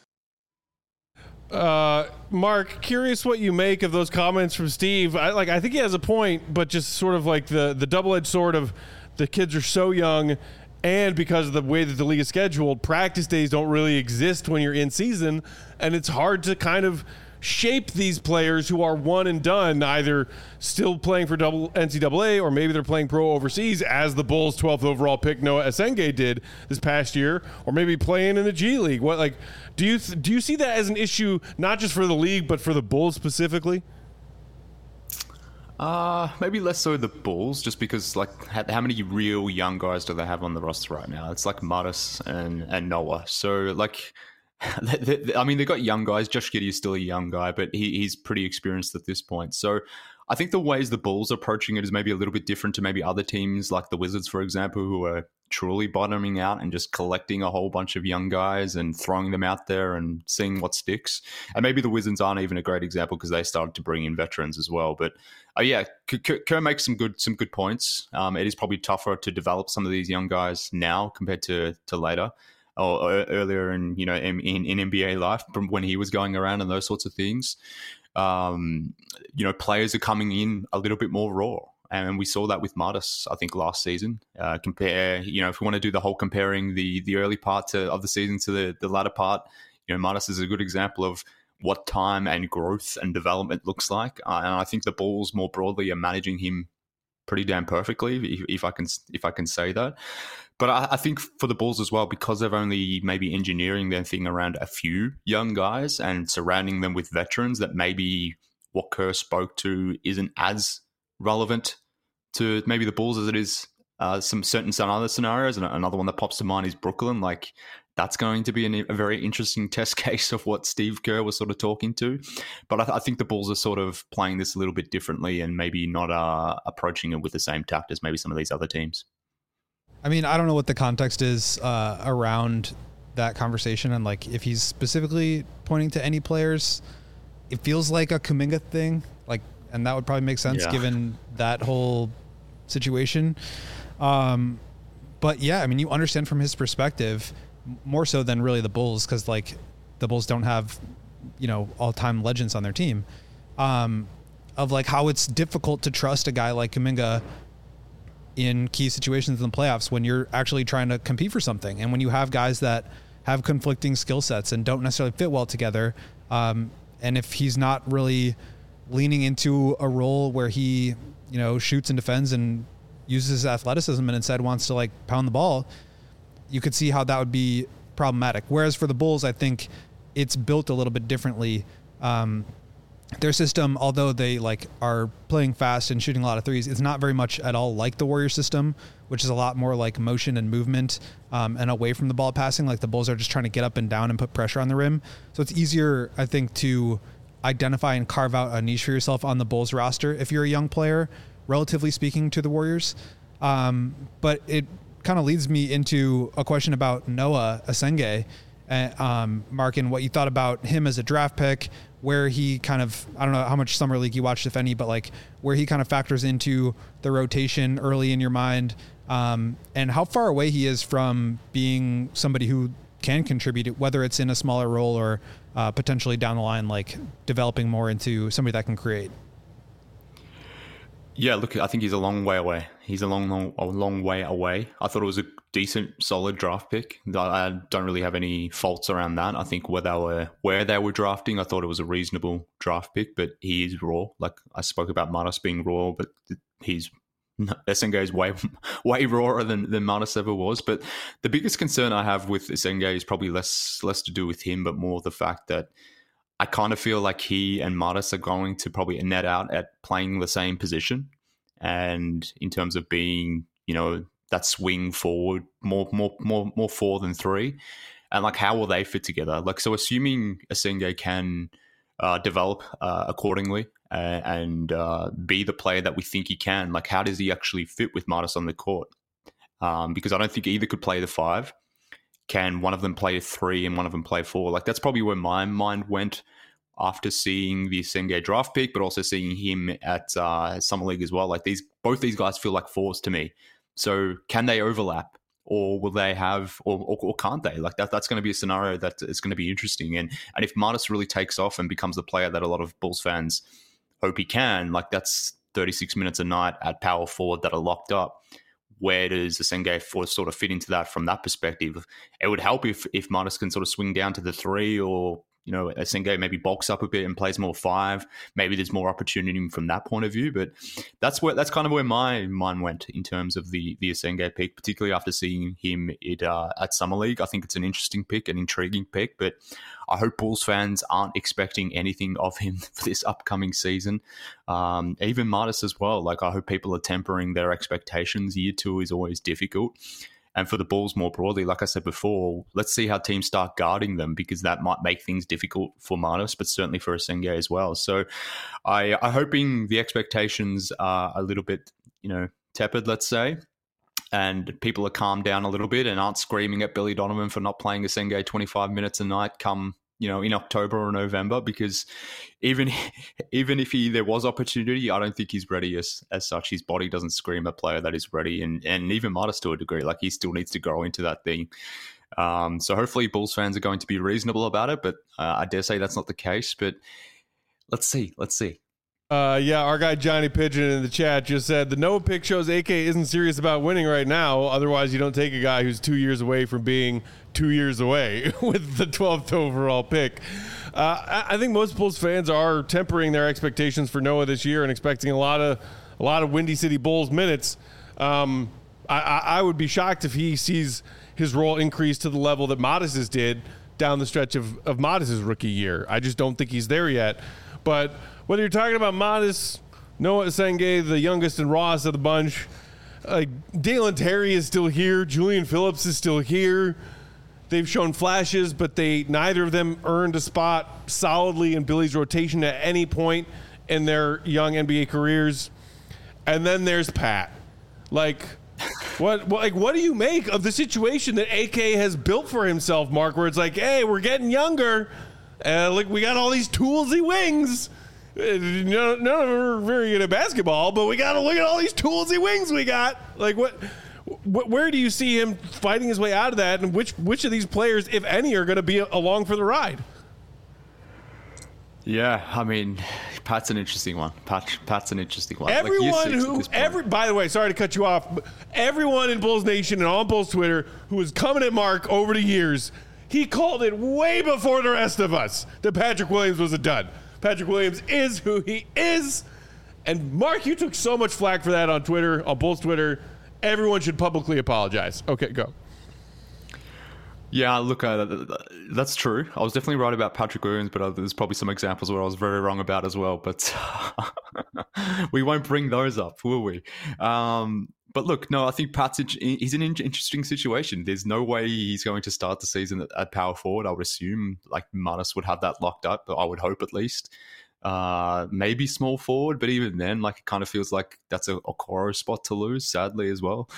Speaker 1: Uh, Mark, curious what you make of those comments from Steve. I like. I think he has a point, but just sort of like the the double-edged sword of the kids are so young, and because of the way that the league is scheduled, practice days don't really exist when you're in season, and it's hard to kind of shape these players who are one and done, either still playing for double N C double A or maybe they're playing pro overseas, as the Bulls' twelfth overall pick Noah Esenge did this past year, or maybe playing in the G League. What like do you th- do you see that as an issue not just for the league but for the Bulls specifically?
Speaker 4: Uh, maybe less so the Bulls, just because like how, how many real young guys do they have on the roster right now? It's like Mattis and and Noah. So like. I mean, they've got young guys. Josh Giddey is still a young guy, but he, he's pretty experienced at this point. So I think the ways the Bulls are approaching it is maybe a little bit different to maybe other teams like the Wizards, for example, who are truly bottoming out and just collecting a whole bunch of young guys and throwing them out there and seeing what sticks. And maybe the Wizards aren't even a great example because they started to bring in veterans as well. But uh, yeah, Kerr makes some good some good points. Um, it is probably tougher to develop some of these young guys now compared to to later. Or earlier in, you know, in, in N B A life from when he was going around and those sorts of things. Um, you know, players are coming in a little bit more raw. And we saw that with Mattis, I think, last season. Uh, compare, you know, if we want to do the whole comparing the the early part to, of the season to the, the latter part, you know, Mattis is a good example of what time and growth and development looks like. Uh, and I think the Bulls more broadly are managing him pretty damn perfectly, if, if I can if I can say that. But I, I think for the Bulls as well, because they're only maybe engineering their thing around a few young guys and surrounding them with veterans, that maybe what Kerr spoke to isn't as relevant to maybe the Bulls as it is uh, some certain some other scenarios. And another one that pops to mind is Brooklyn. Like, that's going to be an, a very interesting test case of what Steve Kerr was sort of talking to. But I, th- I think the Bulls are sort of playing this a little bit differently and maybe not uh, approaching it with the same tact as maybe some of these other teams.
Speaker 3: I mean, I don't know what the context is uh, around that conversation, and like if he's specifically pointing to any players. It feels like a Kuminga thing, like, and that would probably make sense
Speaker 4: yeah.
Speaker 3: given that whole situation. Um, but yeah, I mean, you understand from his perspective more so than really the Bulls, because like the Bulls don't have, you know, all-time legends on their team, um, of like how it's difficult to trust a guy like Kuminga in key situations in the playoffs when you're actually trying to compete for something. And when you have guys that have conflicting skill sets and don't necessarily fit well together, um, and if he's not really leaning into a role where he, you know, shoots and defends and uses his athleticism and instead wants to like pound the ball, you could see how that would be problematic. Whereas for the Bulls, I think it's built a little bit differently. Um, their system, although they like are playing fast and shooting a lot of threes, it's not very much at all like the Warriors system, which is a lot more like motion and movement um, and away from the ball passing. Like the Bulls are just trying to get up and down and put pressure on the rim. So it's easier, I think, to identify and carve out a niche for yourself on the Bulls roster if you're a young player, relatively speaking, to the Warriors. Um, but it kind of leads me into a question about Noah Asenge, uh, um, Mark, and what you thought about him as a draft pick, where he kind of, I don't know how much summer league you watched, if any, but like where he kind of factors into the rotation early in your mind, um, and how far away he is from being somebody who can contribute, whether it's in a smaller role or uh, potentially down the line, like developing more into somebody that can create.
Speaker 4: Yeah, look, I think he's a long way away. He's a long, long, a long way away. I thought it was a decent, solid draft pick. I don't really have any faults around that. I think where they were, where they were drafting, I thought it was a reasonable draft pick. But he is raw. Like I spoke about Martis being raw, but he's Asenge is way, way rawer than than Martis ever was. But the biggest concern I have with Asenge is probably less less to do with him, but more the fact that I kind of feel like he and Martis are going to probably net out at playing the same position. And in terms of being, you know, that swing forward, more more more more four than three. And like, how will they fit together? Like, so assuming Asenge can uh, develop uh, accordingly uh, and uh, be the player that we think he can, like, how does he actually fit with Martis on the court? Um, because I don't think either could play the five. Can one of them play a three and one of them play four? Like, that's probably where my mind went after seeing the Asenge draft pick, but also seeing him at uh, Summer League as well. Like, these, both these guys feel like fours to me. So can they overlap, or will they have, or, or, or can't they? Like that, that's going to be a scenario that is going to be interesting. And and if Martis really takes off and becomes the player that a lot of Bulls fans hope he can, like that's thirty-six minutes a night at power forward that are locked up. Where does Asenge sort of fit into that from that perspective? It would help if if Martis can sort of swing down to the three, or you know, Asenge maybe bulks up a bit and plays more five. Maybe there's more opportunity from that point of view. But that's where that's kind of where my mind went in terms of the the Asenge pick, particularly after seeing him at, uh, at Summer League. I think it's an interesting pick, an intriguing pick, but I hope Bulls fans aren't expecting anything of him for this upcoming season. Um, even Martis as well. Like, I hope people are tempering their expectations. Year two is always difficult. And for the Bulls more broadly, like I said before, let's see how teams start guarding them, because that might make things difficult for Martis, but certainly for Asenge as well. So I, I'm hoping the expectations are a little bit, you know, tepid, let's say, and people are calmed down a little bit and aren't screaming at Billy Donovan for not playing Asenge twenty-five minutes a night come, you know, in October or November, because even even if he there was opportunity, I don't think he's ready as as such. His body doesn't scream a player that is ready, and and even Martis to a degree, like he still needs to grow into that thing. Um, so hopefully Bulls fans are going to be reasonable about it, but uh, I dare say that's not the case. But let's see, let's see.
Speaker 1: Uh, yeah, our guy Johnny Pigeon in the chat just said the Noah pick shows A K isn't serious about winning right now. Otherwise, you don't take a guy who's two years away from being two years away with the twelfth overall pick. Uh, I, I think most Bulls fans are tempering their expectations for Noah this year and expecting a lot of a lot of Windy City Bulls minutes. Um, I, I, I would be shocked if he sees his role increase to the level that Modes's did down the stretch of, of Modes's rookie year. I just don't think he's there yet. But whether you're talking about Modest, Noah Senge, the youngest and rawest of the bunch, like Dalen Terry is still here, Julian Phillips is still here. They've shown flashes, but they neither of them earned a spot solidly in Billy's rotation at any point in their young N B A careers. And then there's Pat. Like, what, what, like, what do you make of the situation that A K has built for himself, Mark? Where it's like, hey, we're getting younger, and like we got all these toolsy wings. None, none of them are very good at basketball, but we got to look at all these toolsy wings we got. Like, what? Wh- where do you see him fighting his way out of that, and which which of these players, if any, are going to be along for the ride?
Speaker 4: Yeah, I mean, Pat's an interesting one. Pat, Pat's an interesting one.
Speaker 1: Everyone
Speaker 4: like
Speaker 1: who, every, by the way, sorry to cut you off, but everyone in Bulls Nation and on Bulls Twitter who was coming at Mark over the years, he called it way before the rest of us that Patrick Williams was a dud. Patrick Williams is who he is. And Mark, you took so much flack for that on Twitter, on Bulls Twitter. Everyone should publicly apologize. Okay, go.
Speaker 4: Yeah, look, uh, that's true. I was definitely right about Patrick Williams, but uh, there's probably some examples where I was very wrong about as well. But we won't bring those up, will we? Um, but look, no, I think Pat's he's in an interesting situation. There's no way he's going to start the season at, at power forward. I would assume like Manas would have that locked up, but I would hope at least. Uh, maybe small forward, but even then, like it kind of feels like that's a Okoro spot to lose, sadly as well.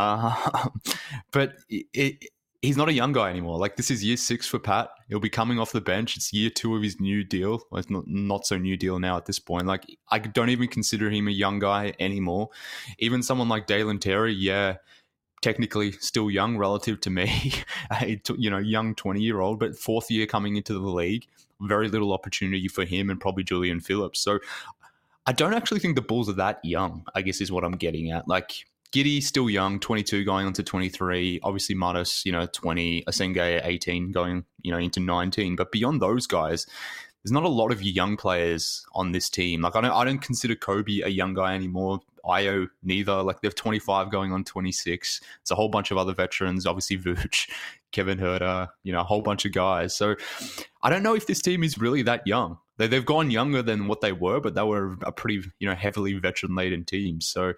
Speaker 4: Uh, but it, it he's not a young guy anymore. Like this is year six for Pat. He'll be coming off the bench. It's year two of his new deal. Well, it's not, not so new deal now at this point. Like I don't even consider him a young guy anymore. Even someone like Dalen Terry, yeah, technically still young relative to me, a, you know, young twenty year old, but fourth year coming into the league, very little opportunity for him and probably Julian Phillips. So I don't actually think the Bulls are that young, I guess is what I'm getting at. Like Giddey, still young, twenty-two going on to twenty-three. Obviously, Modest, you know, twenty. Asenge, eighteen, going, you know, into nineteen. But beyond those guys, there's not a lot of young players on this team. Like, I don't, I don't consider Kobe a young guy anymore. Io neither. Like, they're twenty-five going on twenty-six. It's a whole bunch of other veterans. Obviously, Vooch, Kevin Huerter, you know, a whole bunch of guys. So I don't know if this team is really that young. They, they've gone younger than what they were, but they were a pretty, you know, heavily veteran-laden team. So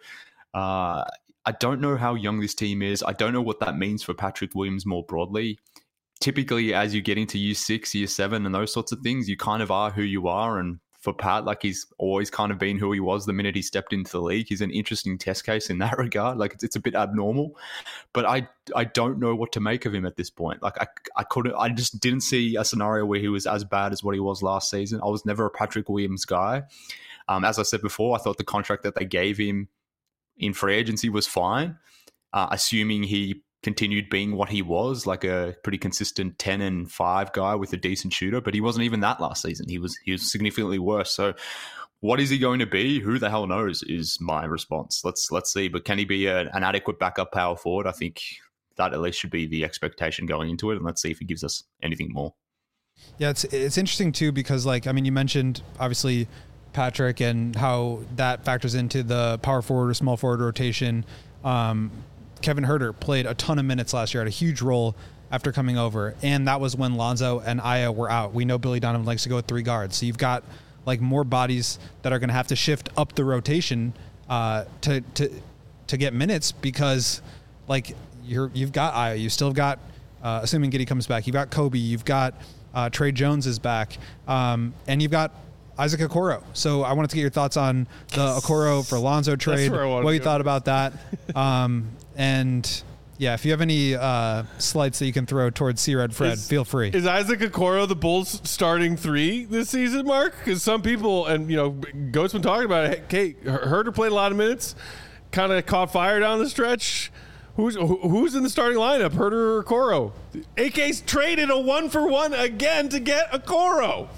Speaker 4: Uh, I don't know how young this team is. I don't know what that means for Patrick Williams more broadly. Typically, as you get into year six, year seven, and those sorts of things, you kind of are who you are. And for Pat, like he's always kind of been who he was the minute he stepped into the league. He's an interesting test case in that regard. Like it's, it's a bit abnormal, but I I don't know what to make of him at this point. Like I I couldn't I just didn't see a scenario where he was as bad as what he was last season. I was never a Patrick Williams guy. Um, as I said before, I thought the contract that they gave him in free agency was fine, uh, assuming he continued being what he was, like a pretty consistent ten and five guy with a decent shooter, but he wasn't even that last season. He was he was significantly worse. So what is he going to be? Who the hell knows is my response. Let's let's see. But can he be a, an adequate backup power forward? I think that at least should be the expectation going into it, and let's see if he gives us anything more.
Speaker 3: Yeah, it's it's interesting too because, like, I mean, you mentioned obviously Patrick and how that factors into the power forward or small forward rotation. Um, Kevin Huerter played a ton of minutes last year, had a huge role after coming over, and that was when Lonzo and Aya were out. We know Billy Donovan likes to go with three guards, so you've got like more bodies that are going to have to shift up the rotation uh, to to to get minutes because like you're you've got Aya, you still got uh, assuming Giddey comes back, you've got Kobe, you've got uh, Trey Jones is back, um, and you've got Isaac Okoro. So I wanted to get your thoughts on the Okoro for Lonzo trade, what you thought about that. Um, and yeah, if you have any uh, slights that you can throw towards C-Red Fred,
Speaker 1: is,
Speaker 3: feel free.
Speaker 1: Is Isaac Okoro the Bulls starting three this season, Mark? Because some people, and you know, Goat's been talking about it. Hey, Huerter played a lot of minutes, kind of caught fire down the stretch. Who's who's in the starting lineup, Huerter or Okoro? A K's traded a one for one again to get Okoro.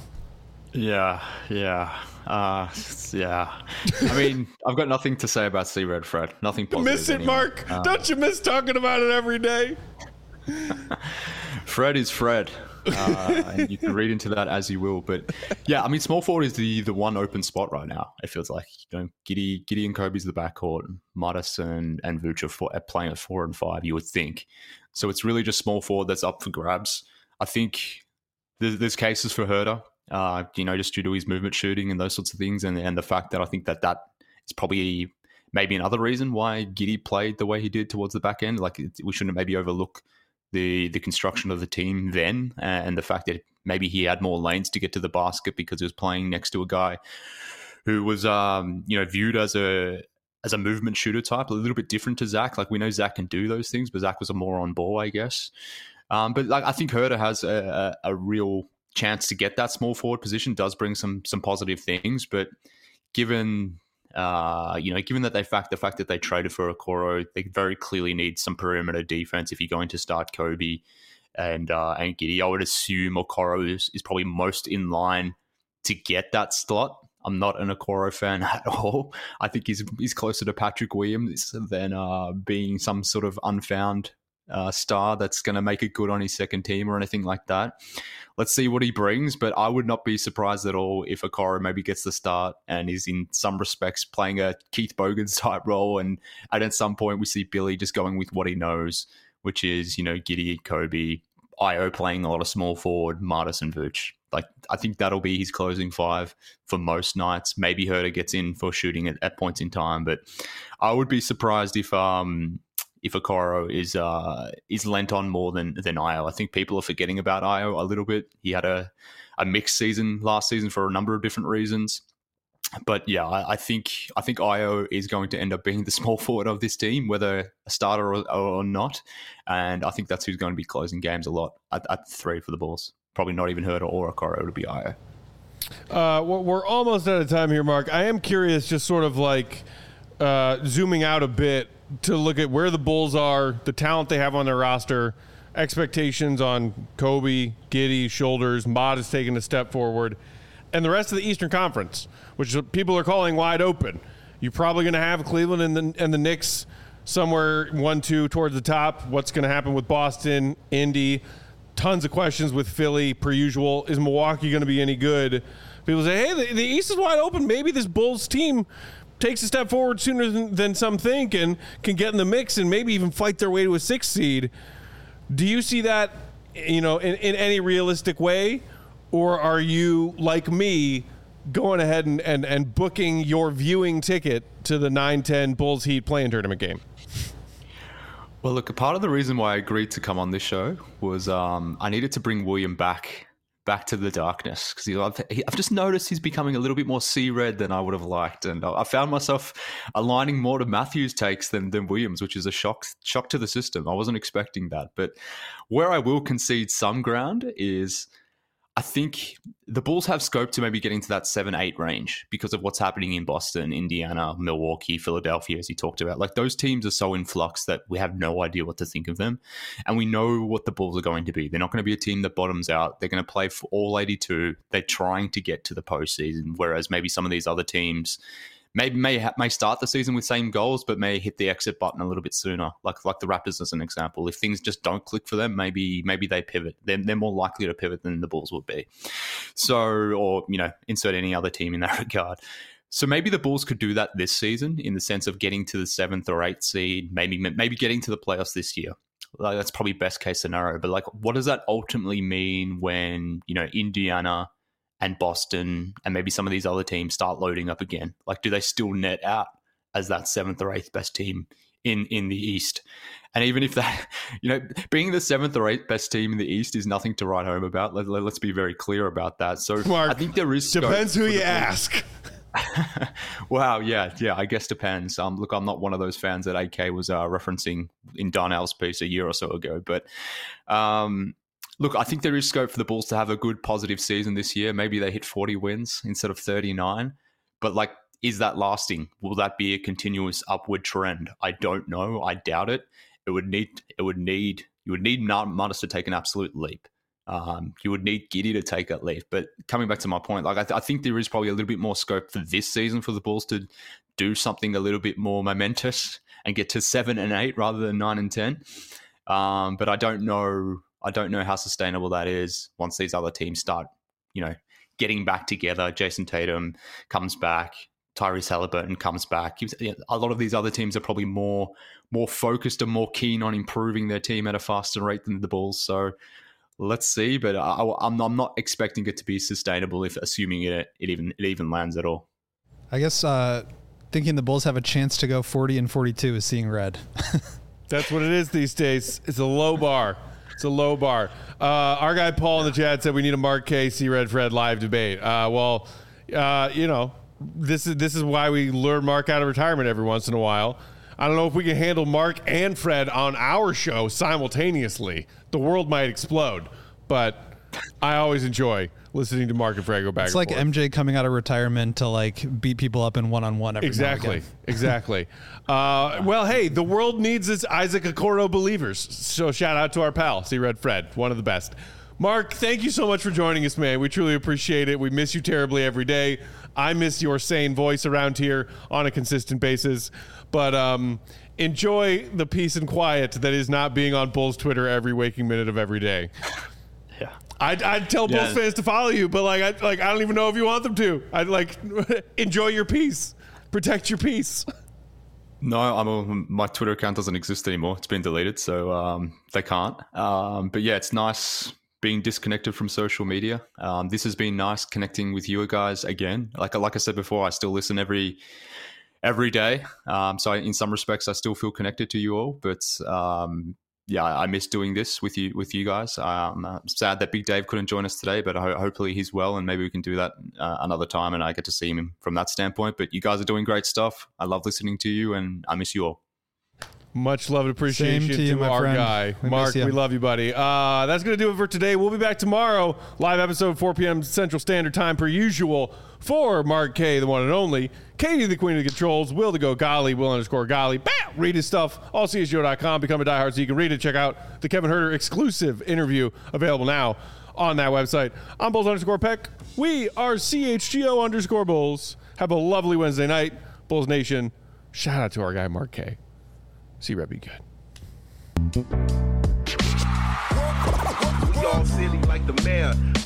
Speaker 4: Yeah, yeah, uh, yeah. I mean, I've got nothing to say about C-Red Fred. Nothing positive.
Speaker 1: Miss it,
Speaker 4: anyway.
Speaker 1: Mark.
Speaker 4: Uh,
Speaker 1: Don't you miss talking about it every day?
Speaker 4: Fred is Fred. uh, and you can read into that as you will. But yeah, I mean, small forward is the the one open spot right now. It feels like, you know, Giddy, Giddy and Kobe's the backcourt, Madison and Vooch are, for, are playing at four and five. You would think, so it's really just small forward that's up for grabs. I think there's, there's cases for Herter, uh, you know, just due to his movement shooting and those sorts of things, and and the fact that I think that that is probably maybe another reason why Giddy played the way he did towards the back end. Like, it, we shouldn't maybe overlook the the construction of the team then, and the fact that maybe he had more lanes to get to the basket because he was playing next to a guy who was um, you know, viewed as a as a movement shooter type, a little bit different to Zach. Like, we know Zach can do those things, but Zach was a more on ball, I guess. Um, but like, I think Herter has a, a, a real chance to get that small forward position. Does bring some some positive things, but given Uh, you know, given that they fact the fact that they traded for Okoro, they very clearly need some perimeter defense if you're going to start Kobe and uh, and Giddy. I would assume Okoro is, is probably most in line to get that slot. I'm not an Okoro fan at all. I think he's he's closer to Patrick Williams than uh, being some sort of unfound uh, star that's going to make it good on his second team or anything like that. Let's see what he brings, but I would not be surprised at all if Okoro maybe gets the start and is in some respects playing a Keith Bogans type role, and, and at some point we see Billy just going with what he knows, which is, you know, Giddy, Kobe, Io playing a lot of small forward, Martis and Vooch. Like, I think that'll be his closing five for most nights. Maybe Herter gets in for shooting at, at points in time, but I would be surprised if um if Okoro is uh is lent on more than than Io. I think people are forgetting about Io a little bit. He had a a mixed season last season for a number of different reasons. But yeah, I, I think I think Io is going to end up being the small forward of this team, whether a starter or, or not. And I think that's who's going to be closing games a lot at, at three for the Bulls. Probably not even Herter or Okoro. It'll be Io.
Speaker 1: Uh, we're almost out of time here, Mark. I am curious, just sort of like uh, zooming out a bit to look at where the Bulls are, the talent they have on their roster, expectations on Kobe, Giddy, Shoulders, Mod is taking a step forward, and the rest of the Eastern Conference, which people are calling wide open. You're probably going to have Cleveland and the, and the Knicks somewhere one two towards the top. What's going to happen with Boston, Indy? Tons of questions with Philly, per usual. Is Milwaukee going to be any good? People say, hey, the, the East is wide open. Maybe this Bulls team takes a step forward sooner than, than some think and can get in the mix and maybe even fight their way to a sixth seed. Do you see that, you know, in, in any realistic way? Or are you, like me, going ahead and, and, and booking your viewing ticket to the nine ten Bulls Heat play-in tournament game?
Speaker 4: Well, look, a part of the reason why I agreed to come on this show was um, I needed to bring William back back to the darkness, because I've, I've just noticed he's becoming a little bit more sea-red than I would have liked, and I found myself aligning more to Matthews' takes than, than Williams, which is a shock shock to the system. I wasn't expecting that, but where I will concede some ground is I think the Bulls have scope to maybe getting to that seven eight range because of what's happening in Boston, Indiana, Milwaukee, Philadelphia, as you talked about. Like, those teams are so in flux that we have no idea what to think of them. And we know what the Bulls are going to be. They're not going to be a team that bottoms out. They're going to play for all eighty-two. They're trying to get to the postseason, whereas maybe some of these other teams Maybe may ha- may start the season with same goals, but may hit the exit button a little bit sooner. Like like the Raptors as an example. If things just don't click for them, maybe maybe they pivot. They're, they're more likely to pivot than the Bulls would be. So, or you know, insert any other team in that regard. So maybe the Bulls could do that this season in the sense of getting to the seventh or eighth seed, maybe maybe getting to the playoffs this year. Like, that's probably best case scenario. But like, what does that ultimately mean when, you know, Indiana and Boston and maybe some of these other teams start loading up again? Like, do they still net out as that seventh or eighth best team in, in the East? And even if that, you know, being the seventh or eighth best team in the East is nothing to write home about. Let, let, let's be very clear about that. So
Speaker 1: Mark,
Speaker 4: I think there is scope.
Speaker 1: Depends who you ask.
Speaker 4: Wow, yeah, yeah, I guess depends. Um, look, I'm not one of those fans that A K was uh, referencing in Darnell's piece a year or so ago, but um, look, I think there is scope for the Bulls to have a good positive season this year. Maybe they hit forty wins instead of thirty-nine. But like, is that lasting? Will that be a continuous upward trend? I don't know. I doubt it. It would need. It would need. You would need Martis to take an absolute leap. Um, you would need Giddy to take that leap. But coming back to my point, like I, th- I think there is probably a little bit more scope for this season for the Bulls to do something a little bit more momentous and get to seven and eight rather than nine and ten. Um, but I don't know. I don't know how sustainable that is once these other teams start, you know, getting back together. Jason Tatum comes back, Tyrese Halliburton comes back. A lot of these other teams are probably more more focused and more keen on improving their team at a faster rate than the Bulls. So let's see, but I, I'm, I'm not expecting it to be sustainable if assuming it it even it even lands at all.
Speaker 3: I guess uh, thinking the Bulls have a chance to go forty and forty-two is seeing red.
Speaker 1: That's what it is these days. It's a low bar. It's a low bar. Uh, our guy Paul in the chat said we need a Mark K, C Red Fred live debate. Uh, well, uh, you know, this is this is why we lure Mark out of retirement every once in a while. I don't know if we can handle Mark and Fred on our show simultaneously. The world might explode, but I always enjoy listening to Mark and Fred go back.
Speaker 3: It's
Speaker 1: and
Speaker 3: like
Speaker 1: forth.
Speaker 3: M J coming out of retirement to like beat people up in one-on-one every
Speaker 1: Exactly.
Speaker 3: now and again.
Speaker 1: Exactly. Uh, well, hey, the world needs its Isaac Okoro believers. So shout out to our pal, C Red Fred, one of the best. Mark, thank you so much for joining us, man. We truly appreciate it. We miss you terribly every day. I miss your sane voice around here on a consistent basis. But um, enjoy the peace and quiet that is not being on Bulls Twitter every waking minute of every day.
Speaker 4: Yeah.
Speaker 1: I'd, I'd tell
Speaker 4: Yeah.
Speaker 1: Bulls fans to follow you, but like, I, like I don't even know if you want them to. I'd like enjoy your peace, protect your peace.
Speaker 4: No, I'm a, my Twitter account doesn't exist anymore. It's been deleted, so um, they can't. Um, but yeah, it's nice being disconnected from social media. Um, this has been nice connecting with you guys again. Like like I said before, I still listen every every day. Um, so in some respects, I still feel connected to you all. But um, yeah, I miss doing this with you with you guys. Um, I'm sad that Big Dave couldn't join us today, but ho- hopefully he's well, and maybe we can do that uh, another time, and I get to see him from that standpoint. But you guys are doing great stuff. I love listening to you, and I miss you all.
Speaker 1: Much love and appreciation
Speaker 3: Same to
Speaker 1: to,
Speaker 3: you, my
Speaker 1: our
Speaker 3: friend.
Speaker 1: guy.
Speaker 3: We miss
Speaker 1: Mark,
Speaker 3: you.
Speaker 1: we love you, buddy. Uh, that's going to do it for today. We'll be back tomorrow. Live episode, four p.m. Central Standard Time, per usual, for Mark K, the one and only. Katie, the queen of the controls. Will, the go golly. Will underscore golly. Bah! Read his stuff. all c s g o dot com. Become a diehard so you can read it. Check out the Kevin Herter exclusive interview available now on that website. I'm Bulls underscore Peck. We are C H G O underscore Bulls. Have a lovely Wednesday night. Bulls Nation. Shout out to our guy, Mark K. See Red be good.
Speaker 6: We all silly like the mayor.